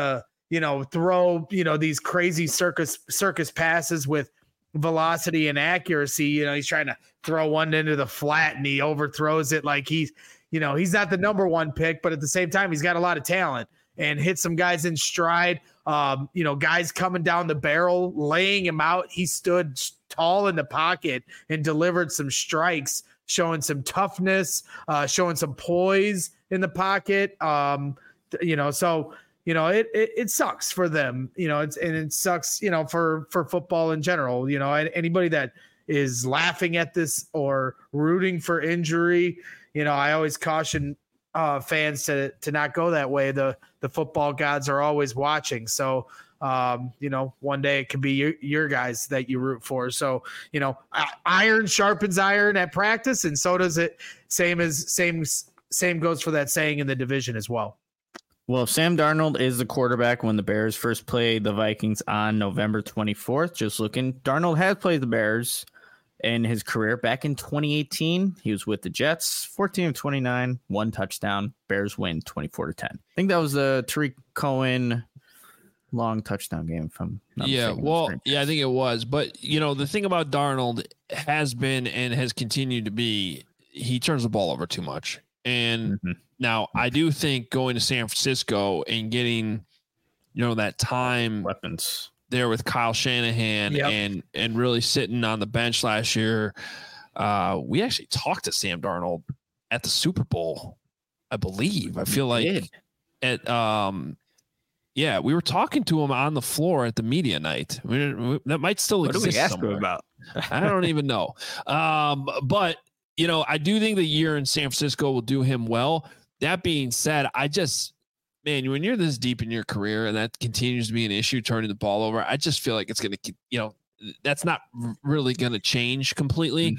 throw, these crazy circus passes with velocity and accuracy. He's trying to throw one into the flat and he overthrows it like he's not the number one pick, but at the same time, he's got a lot of talent and hit some guys in stride. Guys coming down the barrel, laying him out. He stood tall in the pocket and delivered some strikes, showing some toughness, showing some poise in the pocket. It sucks for them, it sucks, for football in general. Anybody that is laughing at this or rooting for injury, I always caution fans to not go that way. The football gods are always watching. So, one day it could be your guys that you root for. So, iron sharpens iron at practice, and so does it. Same goes for that saying in the division as well. Well, Sam Darnold is the quarterback when the Bears first played the Vikings on November 24th. Just looking, Darnold has played the Bears in his career. Back in 2018, he was with the Jets, 14 of 29, 1 touchdown. Bears win 24-10. I think that was the Tariq Cohen long touchdown game. I think it was. But, the thing about Darnold has been and has continued to be, he turns the ball over too much. And now I do think going to San Francisco and getting, that time weapons there with Kyle Shanahan and really sitting on the bench last year. We actually talked to Sam Darnold at the Super Bowl, I believe. I feel like we were talking to him on the floor at the media night. That might still exist. What do we ask somewhere. him about? I don't even know. But I do think the year in San Francisco will do him well. That being said, when you're this deep in your career and that continues to be an issue, turning the ball over, I just feel like it's going to, that's not really going to change completely.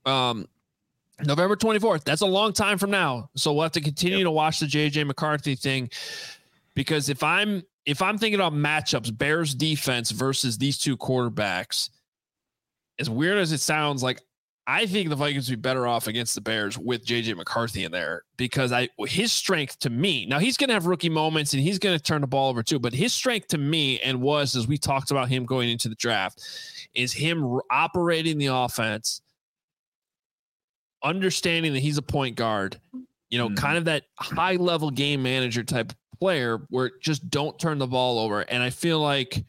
November 24th, that's a long time from now. So we'll have to continue to watch the JJ McCarthy thing, because if I'm thinking about matchups, Bears defense versus these two quarterbacks, as weird as it sounds, like, I think the Vikings would be better off against the Bears with JJ McCarthy in there, because his strength to me, now he's going to have rookie moments and he's going to turn the ball over too, but his strength to me, and was, as we talked about him going into the draft, is him operating the offense, understanding that he's a point guard, kind of that high level game manager type player where just don't turn the ball over. And I feel like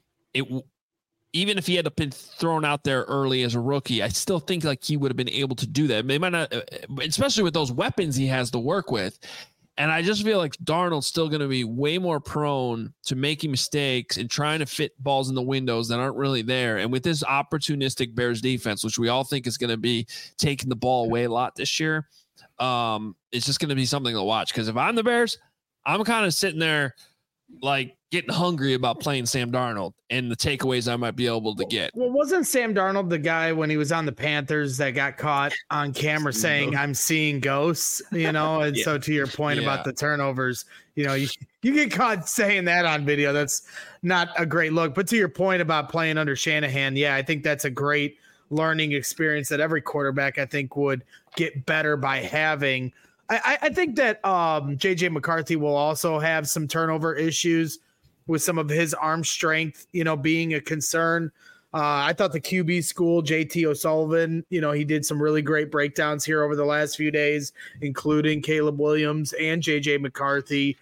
even if he had been thrown out there early as a rookie, I still think like he would have been able to do that. They might not, especially with those weapons he has to work with. And I just feel like Darnold's still going to be way more prone to making mistakes and trying to fit balls in the windows that aren't really there. And with this opportunistic Bears defense, which we all think is going to be taking the ball away a lot this year, it's just going to be something to watch. Because if I'm the Bears, I'm kind of sitting there like getting hungry about playing Sam Darnold and the takeaways I might be able to get. Well, wasn't Sam Darnold the guy when he was on the Panthers that got caught on camera saying, I'm seeing ghosts, And so to your point about the turnovers, you get caught saying that on video. That's not a great look. But to your point about playing under Shanahan, I think that's a great learning experience that every quarterback, I think, would get better by having. I think that JJ McCarthy will also have some turnover issues with some of his arm strength, being a concern. I thought the QB school, JT O'Sullivan, he did some really great breakdowns here over the last few days, including Caleb Williams and JJ McCarthy.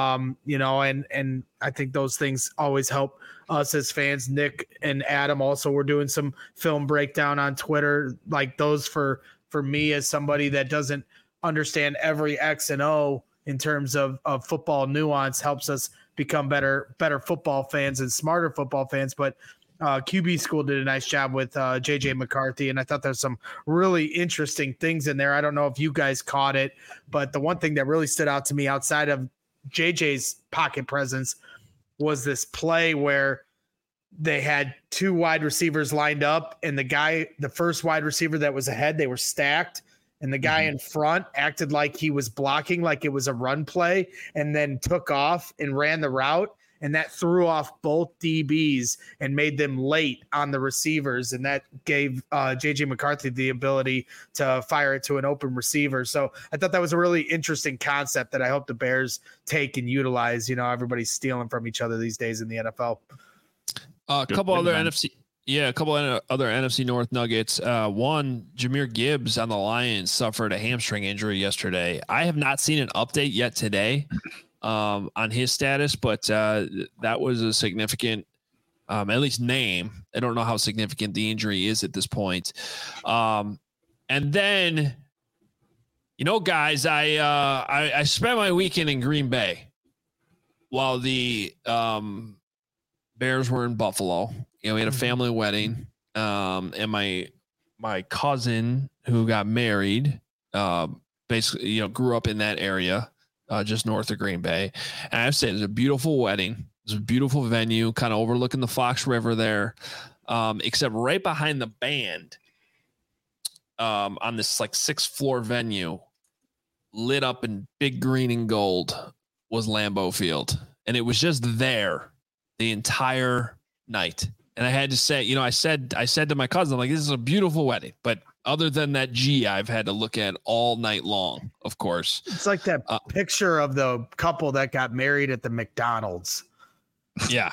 And I think those things always help us as fans. Nick and Adam also were doing some film breakdown on Twitter, like those for me as somebody that doesn't understand every X and O in terms of football nuance, helps us become better football fans and smarter football fans. But QB school did a nice job with JJ McCarthy, and I thought there's some really interesting things in there. I don't know if you guys caught it, but the one thing that really stood out to me outside of JJ's pocket presence was this play where they had two wide receivers lined up, and the first wide receiver that was ahead, they were stacked. And the guy in front acted like he was blocking, like it was a run play, and then took off and ran the route. And that threw off both DBs and made them late on the receivers. And that gave JJ McCarthy the ability to fire it to an open receiver. So I thought that was a really interesting concept that I hope the Bears take and utilize. Everybody's stealing from each other these days in the NFL. A couple other NFC North nuggets. One, Jahmyr Gibbs on the Lions suffered a hamstring injury yesterday. I have not seen an update yet today on his status, but that was a significant, at least name. I don't know how significant the injury is at this point. And then, guys, I spent my weekend in Green Bay while the Bears were in Buffalo. We had a family wedding, and my cousin who got married, basically, grew up in that area, just north of Green Bay. And I have to say, it was a beautiful wedding. It was a beautiful venue, kind of overlooking the Fox River there, except right behind the band, on this like 6th floor venue, lit up in big green and gold, was Lambeau Field, and it was just there the entire night. And I had to say, I said to my cousin, I'm like, this is a beautiful wedding, but other than that I've had to look at all night long, of course. It's like that picture of the couple that got married at the McDonald's. Yeah.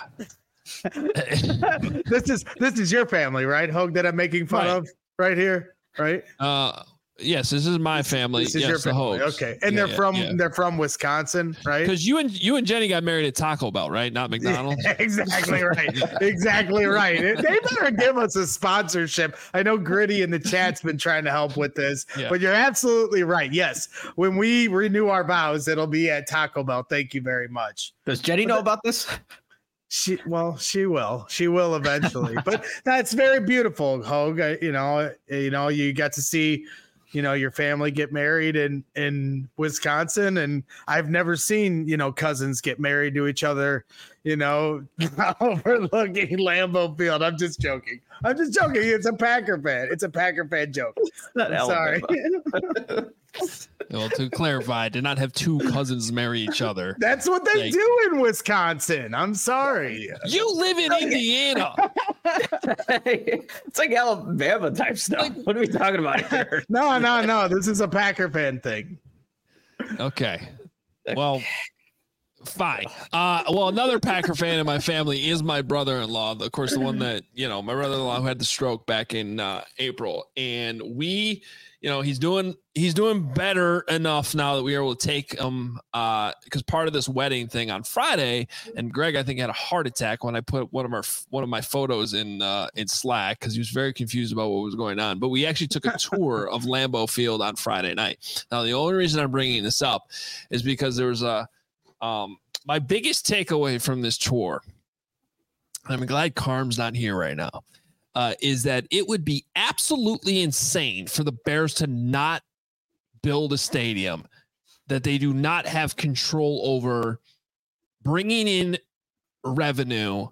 This is your family, right, Hogue, that I'm making fun of right here, right? Yes, this is my family. This is your family. Okay. And they're from Wisconsin, right? Because you and Jenny got married at Taco Bell, right? Not McDonald's. Yeah, exactly right. Exactly right. They better give us a sponsorship. I know Gritty in the chat's been trying to help with this, but you're absolutely right. Yes. When we renew our vows, it'll be at Taco Bell. Thank you very much. Does Jenny know about this? She will eventually, but that's very beautiful, Hogue. You got to see, your family get married in Wisconsin, and I've never seen, cousins get married to each other, overlooking Lambeau Field. I'm just joking. It's a Packer fan. It's a Packer fan joke. Sorry. Well, to clarify, I did not have two cousins marry each other. That's what they do in Wisconsin. I'm sorry. You live in Indiana. It's like Alabama type stuff. What are we talking about here? No. This is a Packer fan thing. Okay. Well, Fine. Well, another Packer fan in my family is my brother-in-law. Of course, the one that, my brother-in-law who had the stroke back in April. And we, he's doing better enough now that we were able to take him because part of this wedding thing on Friday, and Greg, I think, had a heart attack when I put one of my photos in Slack because he was very confused about what was going on. But we actually took a tour of Lambeau Field on Friday night. Now, the only reason I'm bringing this up is because there was my biggest takeaway from this tour, and I'm glad Carm's not here right now, is that it would be absolutely insane for the Bears to not build a stadium that they do not have control over bringing in revenue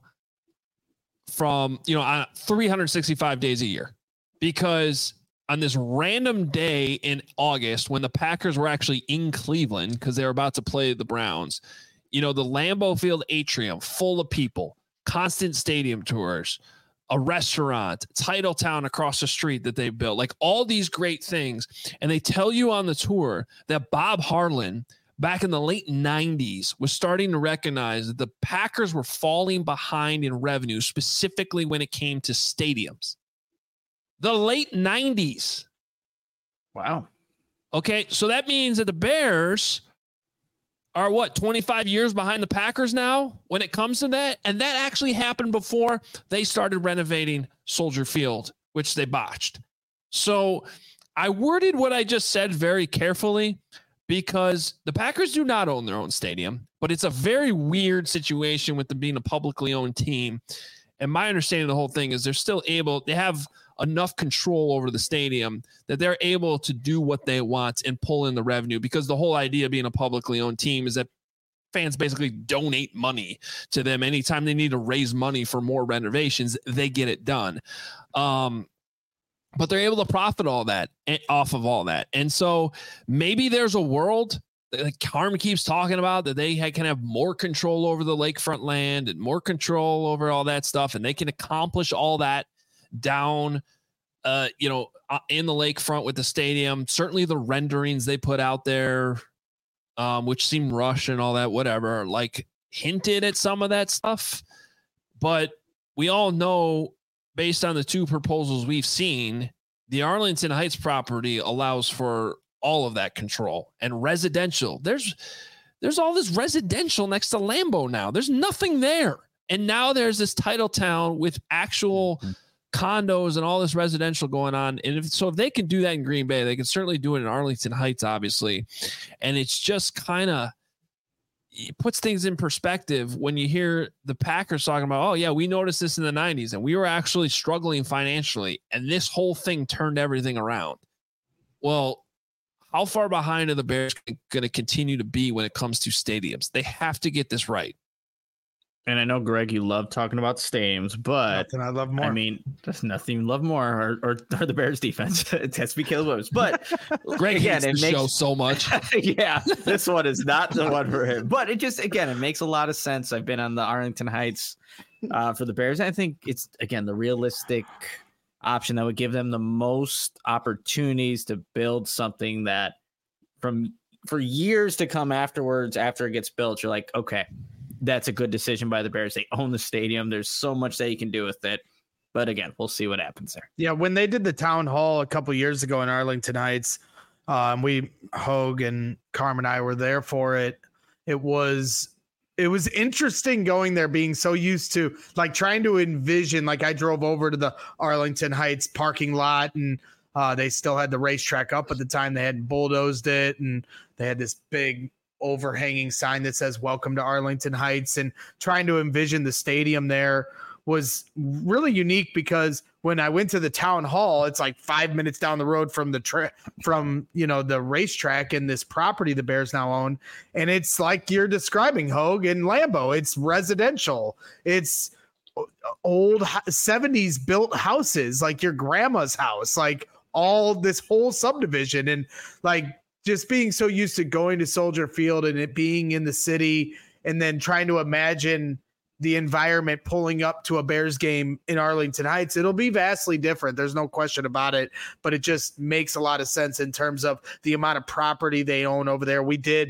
from, on 365 days a year. Because on this random day in August, when the Packers were actually in Cleveland because they were about to play the Browns, the Lambeau Field atrium full of people, constant stadium tours, a restaurant, Title Town across the street that they built, like all these great things. And they tell you on the tour that Bob Harlan back in the late 90s was starting to recognize that the Packers were falling behind in revenue, specifically when it came to stadiums. The late 90s. Wow. Okay, so that means that the Bears are 25 years behind the Packers now when it comes to that? And that actually happened before they started renovating Soldier Field, which they botched. So I worded what I just said very carefully because the Packers do not own their own stadium, but it's a very weird situation with them being a publicly owned team. And my understanding of the whole thing is they have enough control over the stadium that they're able to do what they want and pull in the revenue, because the whole idea of being a publicly owned team is that fans basically donate money to them. Anytime they need to raise money for more renovations, they get it done. But they're able to profit off of all that. And so maybe there's a world like Carm keeps talking about that they can have more control over the lakefront land and more control over all that stuff. And they can accomplish all that down, in the lakefront with the stadium. Certainly the renderings they put out there, which seem rushed and all that, whatever, like hinted at some of that stuff. But we all know, based on the two proposals we've seen, the Arlington Heights property allows for all of that control and residential. There's all this residential next to Lambeau now. There's nothing there. And now there's this Title Town with actual condos and all this residential going on. And if they can do that in Green Bay, they can certainly do it in Arlington Heights, obviously. And it's just it puts things in perspective when you hear the Packers talking about, oh yeah, we noticed this in the 90s and we were actually struggling financially. And this whole thing turned everything around. Well, how far behind are the Bears going to continue to be when it comes to stadiums? They have to get this right. And I know, Greg, you love talking about stadiums, but nothing I love more. I mean, there's nothing you love more, or the Bears defense. It has to be Caleb Williams. But Greg hates the show so much. Yeah, this one is not the one for him. But it makes a lot of sense. I've been on the Arlington Heights for the Bears. I think it's, again, the realistic option that would give them the most opportunities to build something that for years to come afterwards, after it gets built, you're like, okay, that's a good decision by the Bears. They own the stadium. There's so much that you can do with it. But again, we'll see what happens there. Yeah, when they did the town hall a couple years ago in Arlington Heights, Hogue and Carm and I were there for it. It was interesting going there, being so used to like trying to envision, like I drove over to the Arlington Heights parking lot and they still had the racetrack up at the time. They hadn't bulldozed it, and they had this big overhanging sign that says "Welcome to Arlington Heights," and trying to envision the stadium there was really unique, because when I went to the town hall, it's like 5 minutes down the road from the racetrack and this property the Bears now own. And it's like you're describing, Hogue and Lambeau. It's residential. It's old 70s built houses, like your grandma's house, like all this whole subdivision. And like just being so used to going to Soldier Field and it being in the city, and then trying to imagine the environment pulling up to a Bears game in Arlington Heights, it'll be vastly different. There's no question about it, but it just makes a lot of sense in terms of the amount of property they own over there. We did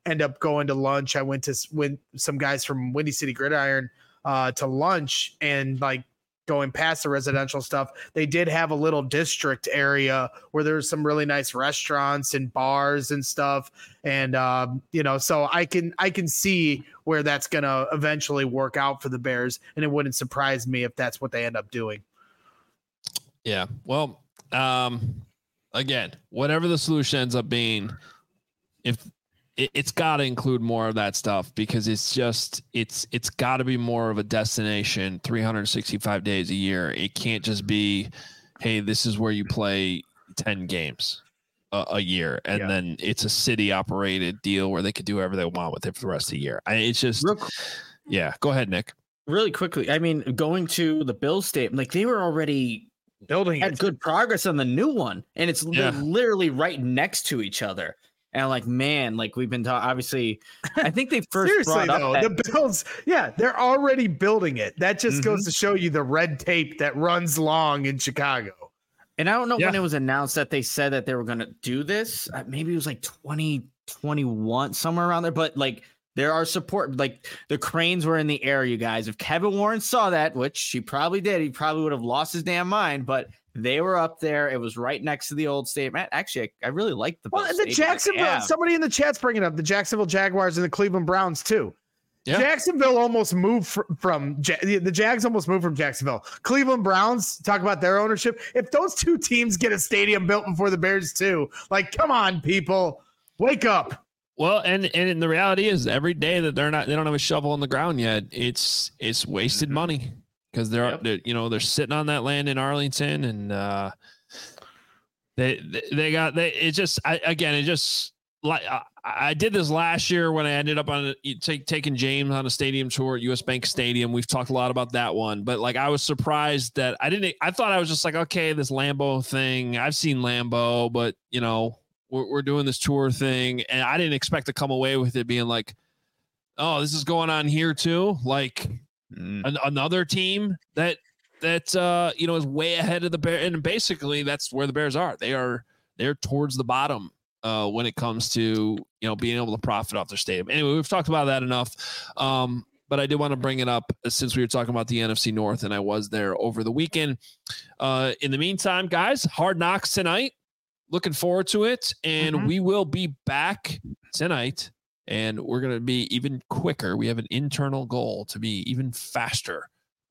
end up going to lunch. I went some guys from Windy City Gridiron to lunch, and like going past the residential stuff, they did have a little district area where there's some really nice restaurants and bars and stuff. And, so I can see where that's going to eventually work out for the Bears. And it wouldn't surprise me if that's what they end up doing. Yeah. Well, again, whatever the solution ends up being, if it's got to include more of that stuff, because it's got to be more of a destination 365 days a year. It can't just be, hey, this is where you play 10 games a year, and then it's a city operated deal where they could do whatever they want with it for the rest of the year. It's just, go ahead, Nick. Really quickly, I mean, going to the Bills Stadium, like they were already building had good progress on the new one, and it's literally right next to each other. And like, man, like we've been talking, obviously, I think they first seriously though, the Bills, they're already building it. That just goes to show you the red tape that runs long in Chicago. And I don't know when it was announced that they said that they were going to do this. Maybe it was like 2021, somewhere around there. But like, there are support, like the cranes were in the air, you guys. If Kevin Warren saw that, which he probably did, he probably would have lost his damn mind. But they were up there. It was right next to the old stadium. Actually, I really like the Bills the Jacksonville. Somebody in the chat's bringing up the Jacksonville Jaguars and the Cleveland Browns too. Yeah. Jacksonville almost moved from the Jags almost moved from Jacksonville. Cleveland Browns, talk about their ownership. If those two teams get a stadium built before the Bears too, like, come on, people, wake up. Well, and the reality is, every day that they don't have a shovel in the ground yet, it's wasted money. Because they're sitting on that land in Arlington, and I did this last year when I ended up on taking James on a stadium tour at US Bank Stadium. We've talked a lot about that one, but like I was surprised that I thought I was just like, okay, this Lambeau thing, I've seen Lambeau, but we're doing this tour thing, and I didn't expect to come away with it being like, oh, this is going on here too, like. Another team that is way ahead of the Bears, and basically that's where the Bears are. They're towards the bottom when it comes to being able to profit off their stadium. Anyway, we've talked about that enough, but I did want to bring it up since we were talking about the NFC North, and I was there over the weekend. In the meantime, guys, Hard Knocks tonight. Looking forward to it, and we will be back tonight. And we're going to be even quicker. We have an internal goal to be even faster.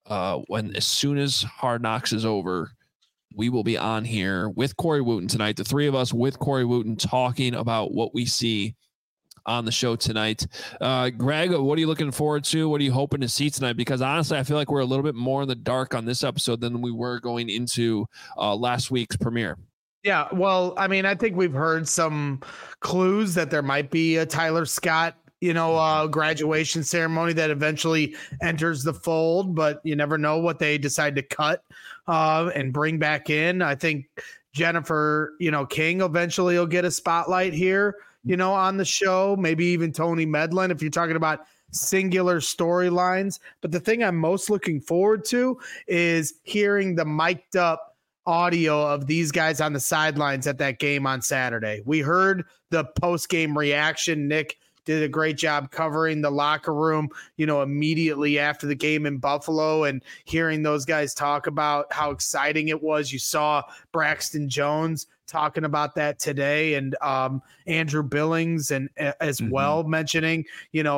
As soon as Hard Knocks is over, we will be on here with Corey Wootton tonight. The three of us with Corey Wootton talking about what we see on the show tonight. Greg, what are you looking forward to? What are you hoping to see tonight? Because honestly, I feel like we're a little bit more in the dark on this episode than we were going into last week's premiere. Yeah, well, I mean, I think we've heard some clues that there might be a Tyler Scott, graduation ceremony that eventually enters the fold, but you never know what they decide to cut and bring back in. I think Jennifer, King eventually will get a spotlight here, on the show, maybe even Tony Medlin, if you're talking about singular storylines. But the thing I'm most looking forward to is hearing the mic'd up audio of these guys on the sidelines at that game on Saturday. We heard the post-game reaction. Nick did a great job covering the locker room, immediately after the game in Buffalo, and hearing those guys talk about how exciting it was. You saw Braxton Jones talking about that today, and Andrew Billings and as well mentioning,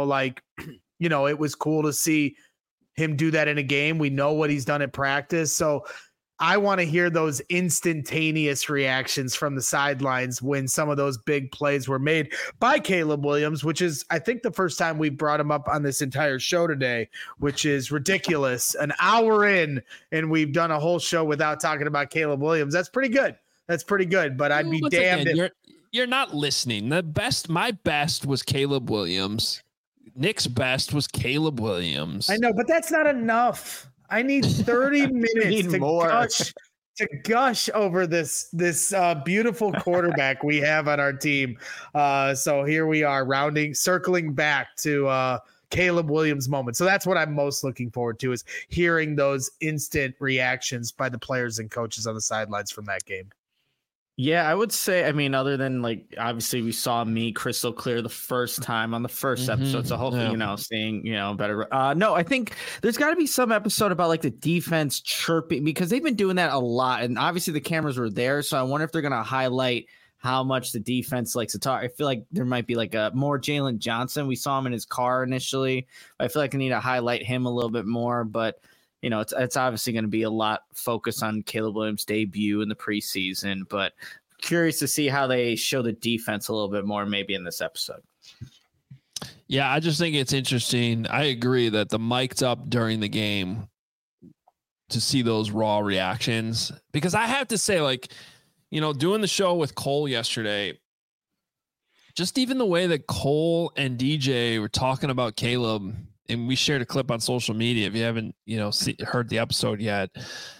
it was cool to see him do that in a game. We know what he's done at practice. So I want to hear those instantaneous reactions from the sidelines when some of those big plays were made by Caleb Williams, which is, I think, the first time we brought him up on this entire show today, which is ridiculous. An hour in, and we've done a whole show without talking about Caleb Williams. That's pretty good. But I'd be damned if you're not listening. My best was Caleb Williams. Nick's best was Caleb Williams. I know, but that's not enough. I need 30 minutes to gush over this beautiful quarterback we have on our team. So here we are circling back to Caleb Williams moment. So that's what I'm most looking forward to, is hearing those instant reactions by the players and coaches on the sidelines from that game. Yeah, I would say, I mean, other than like, obviously we saw me crystal clear the first time on the first episode. So hopefully, seeing, better. No, I think there's got to be some episode about like the defense chirping, because they've been doing that a lot. And obviously the cameras were there. So I wonder if they're going to highlight how much the defense likes to talk. I feel like there might be like a more Jalen Johnson. We saw him in his car initially. I feel like I need to highlight him a little bit more, but it's obviously going to be a lot focused on Caleb Williams' debut in the preseason, but curious to see how they show the defense a little bit more maybe in this episode. Yeah, I just think it's interesting. I agree that the mic'd up during the game to see those raw reactions, because I have to say, like, doing the show with Cole yesterday, just even the way that Cole and DJ were talking about Caleb, and we shared a clip on social media. If you haven't, heard the episode yet,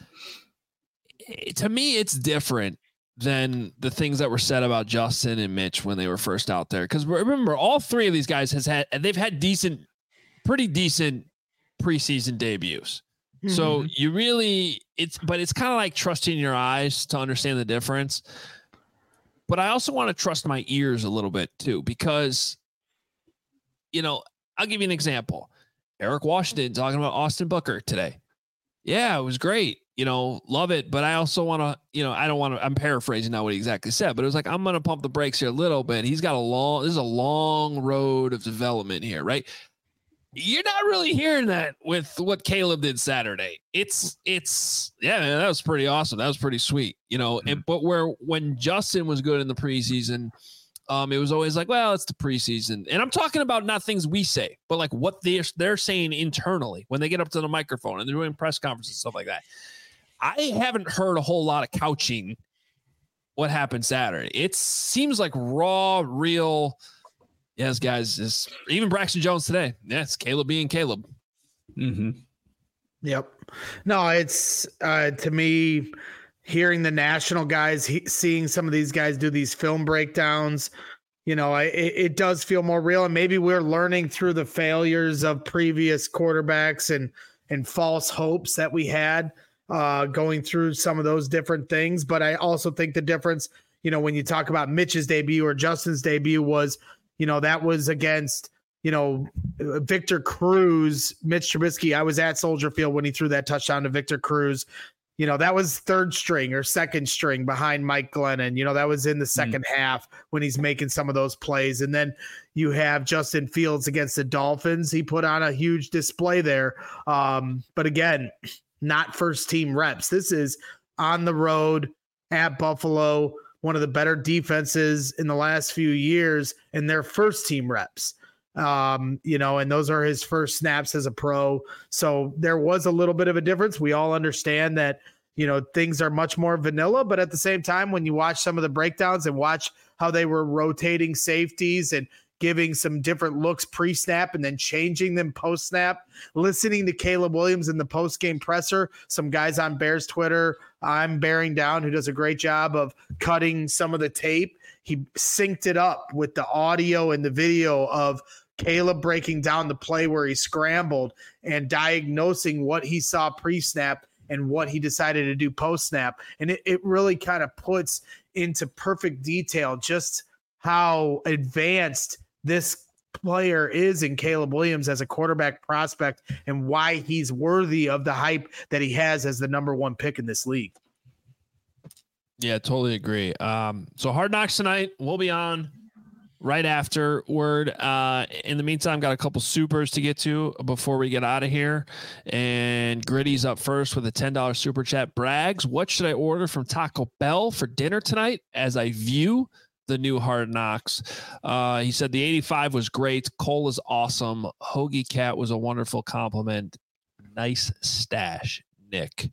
to me, it's different than the things that were said about Justin and Mitch when they were first out there. Because remember, all three of these guys they've had pretty decent preseason debuts. Mm-hmm. So you really, it's kind of like trusting your eyes to understand the difference. But I also want to trust my ears a little bit too, because, I'll give you an example. Eric Washington talking about Austin Booker today. Yeah, it was great. Love it. But I also want to, I don't want to, I'm paraphrasing now what he exactly said, but it was like, I'm going to pump the brakes here a little bit. He's got this is a long road of development here, right? You're not really hearing that with what Caleb did Saturday. It's yeah, man, that was pretty awesome. That was pretty sweet, but when Justin was good in the preseason, it was always like, well, it's the preseason. And I'm talking about not things we say, but like what they're saying internally when they get up to the microphone and they're doing press conferences and stuff like that. I haven't heard a whole lot of couching what happened Saturday. It seems like raw, real. Yes, guys, even Braxton Jones today. Yes, Caleb being Caleb. Mm-hmm. Yep. No, it's to me, hearing the national guys, seeing some of these guys do these film breakdowns, it does feel more real. And maybe we're learning through the failures of previous quarterbacks and false hopes that we had going through some of those different things. But I also think the difference, when you talk about Mitch's debut or Justin's debut was, that was against, Victor Cruz, Mitch Trubisky. I was at Soldier Field when he threw that touchdown to Victor Cruz. That was third string or second string behind Mike Glennon. That was in the second half when he's making some of those plays. And then you have Justin Fields against the Dolphins. He put on a huge display there. But again, not first team reps. This is on the road at Buffalo, one of the better defenses in the last few years, and their first team reps. And those are his first snaps as a pro. So there was a little bit of a difference. We all understand that, things are much more vanilla, but at the same time, when you watch some of the breakdowns and watch how they were rotating safeties and giving some different looks pre-snap and then changing them post-snap, listening to Caleb Williams in the post-game presser, some guys on Bears Twitter, I'm bearing down, who does a great job of cutting some of the tape. He synced it up with the audio and the video of Caleb breaking down the play where he scrambled and diagnosing what he saw pre-snap and what he decided to do post-snap. And it really kind of puts into perfect detail just how advanced this player is in Caleb Williams as a quarterback prospect and why he's worthy of the hype that he has as the number one pick in this league. Yeah, totally agree. So Hard Knocks tonight, we'll be on right afterward. In the meantime, got a couple supers to get to before we get out of here. And Gritty's up first with a $10 super chat. Braggs, what should I order from Taco Bell for dinner tonight as I view the new Hard Knocks? He said the 85 was great. Cole is awesome. Hoagie Cat was a wonderful compliment. Nice stash, Nick.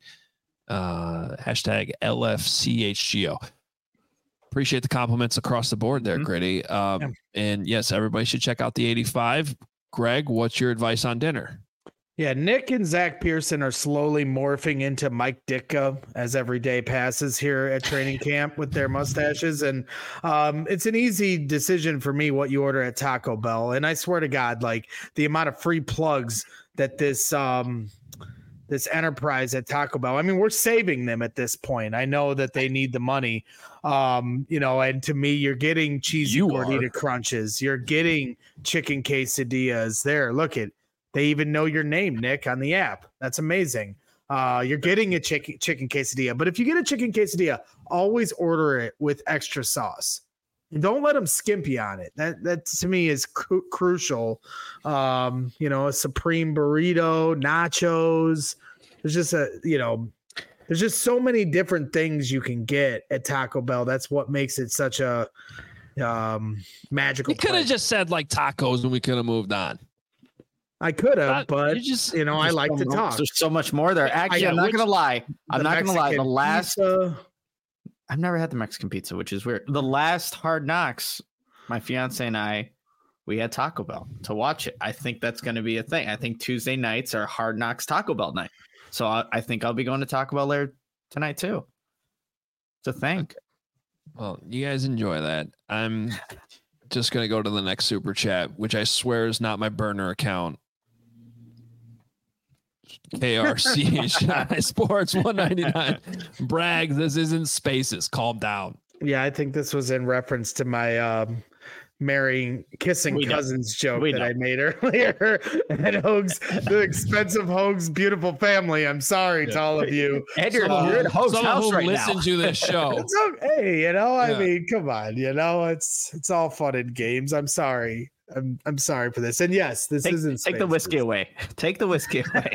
Hashtag LFCHGO. Appreciate the compliments across the board there, Gritty. And yes, everybody should check out the 85. Greg, what's your advice on dinner? Yeah, Nick and Zach Pearson are slowly morphing into Mike Ditka as every day passes here at training camp with their mustaches. And it's an easy decision for me what you order at Taco Bell. And I swear to God, like the amount of free plugs that this this enterprise at Taco Bell. I mean, we're saving them at this point. I know that they need the money. And to me, you're getting cheesy gordita crunches. You're getting chicken quesadillas there. Look at, they even know your name, Nick, on the app. That's amazing. You're getting a chicken quesadilla, but if you get a chicken quesadilla, always order it with extra sauce. And don't let them skimp you on it. That to me is crucial. A supreme burrito, nachos. There's just so many different things you can get at Taco Bell. That's what makes it such a magical. You could have just said like tacos and we could have moved on. I could have, but I like to talk. There's so much more there. Actually, I'm not going to lie. The last, I've never had the Mexican pizza, which is weird. The last Hard Knocks, my fiance and I, we had Taco Bell to watch it. I think that's going to be a thing. I think Tuesday nights are Hard Knocks Taco Bell night. So I think I'll be going to Taco Bell there tonight too. It's a thing. Okay. Well, you guys enjoy that. I'm just going to go to the next super chat, which I swear is not my burner account. KRC Sports 199 Bragg, this isn't Spaces. Calm down. Yeah, I think this was in reference to my kissing cousins joke that I made earlier at Hoag's, the expensive Hoag's beautiful family. I'm sorry to all of you. And you're at Hoag's house right now. Listen to this show. It's okay, I mean, come on, it's all fun and games. I'm sorry. I'm sorry for this. And yes, this isn't Take the whiskey away. Take the whiskey away.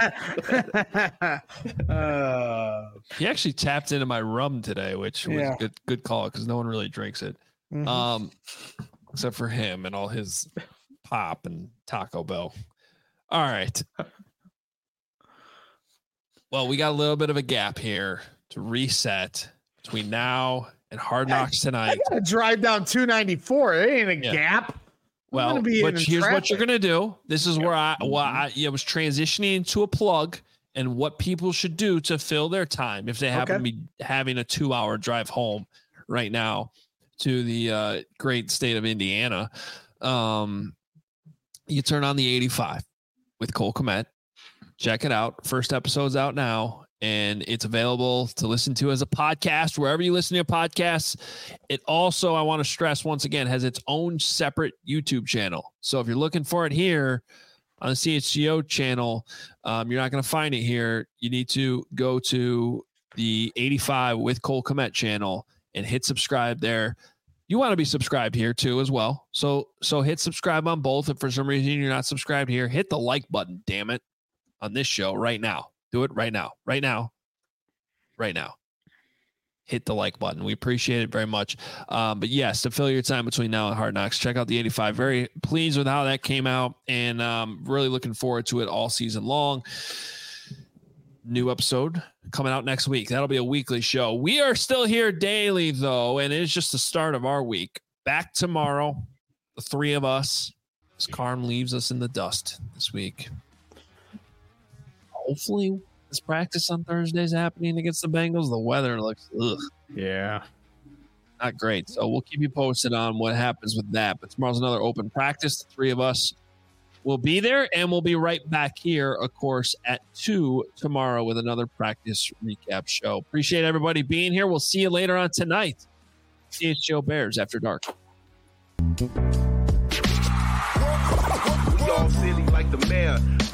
He actually tapped into my rum today, which was a good call because no one really drinks it. Mm-hmm. Except for him and all his pop and Taco Bell. All right. Well, we got a little bit of a gap here to reset between now and Hard Knocks tonight. I gotta drive down 294. It ain't a gap. Well, but here's what you're going to do. This is where I was transitioning into a plug and what people should do to fill their time if they happen to be having a 2-hour drive home right now to the great state of Indiana. You turn on the 85 with Cole Kmet. Check it out. First episode's out now. And it's available to listen to as a podcast, wherever you listen to podcasts. It also, I want to stress once again, has its own separate YouTube channel. So if you're looking for it here on the CHGO channel, you're not going to find it here. You need to go to the 85 with Cole Kmet channel and hit subscribe there. You want to be subscribed here too as well. So hit subscribe on both. If for some reason you're not subscribed here, hit the like button, damn it, on this show right now. Do it right now. Hit the like button. We appreciate it very much. But yes, to fill your time between now and Hard Knocks, check out the 85. Very pleased with how that came out and really looking forward to it all season long. New episode coming out next week. That'll be a weekly show. We are still here daily, though, and it's just the start of our week. Back tomorrow, the three of us, as Carm leaves us in the dust this week. Hopefully this practice on Thursday is happening against the Bengals. The weather looks not great. So we'll keep you posted on what happens with that. But tomorrow's another open practice. The three of us will be there, and we'll be right back here, of course, at 2 tomorrow with another practice recap show. Appreciate everybody being here. We'll see you later on tonight. CHGO Bears After Dark. We all silly like the mayor.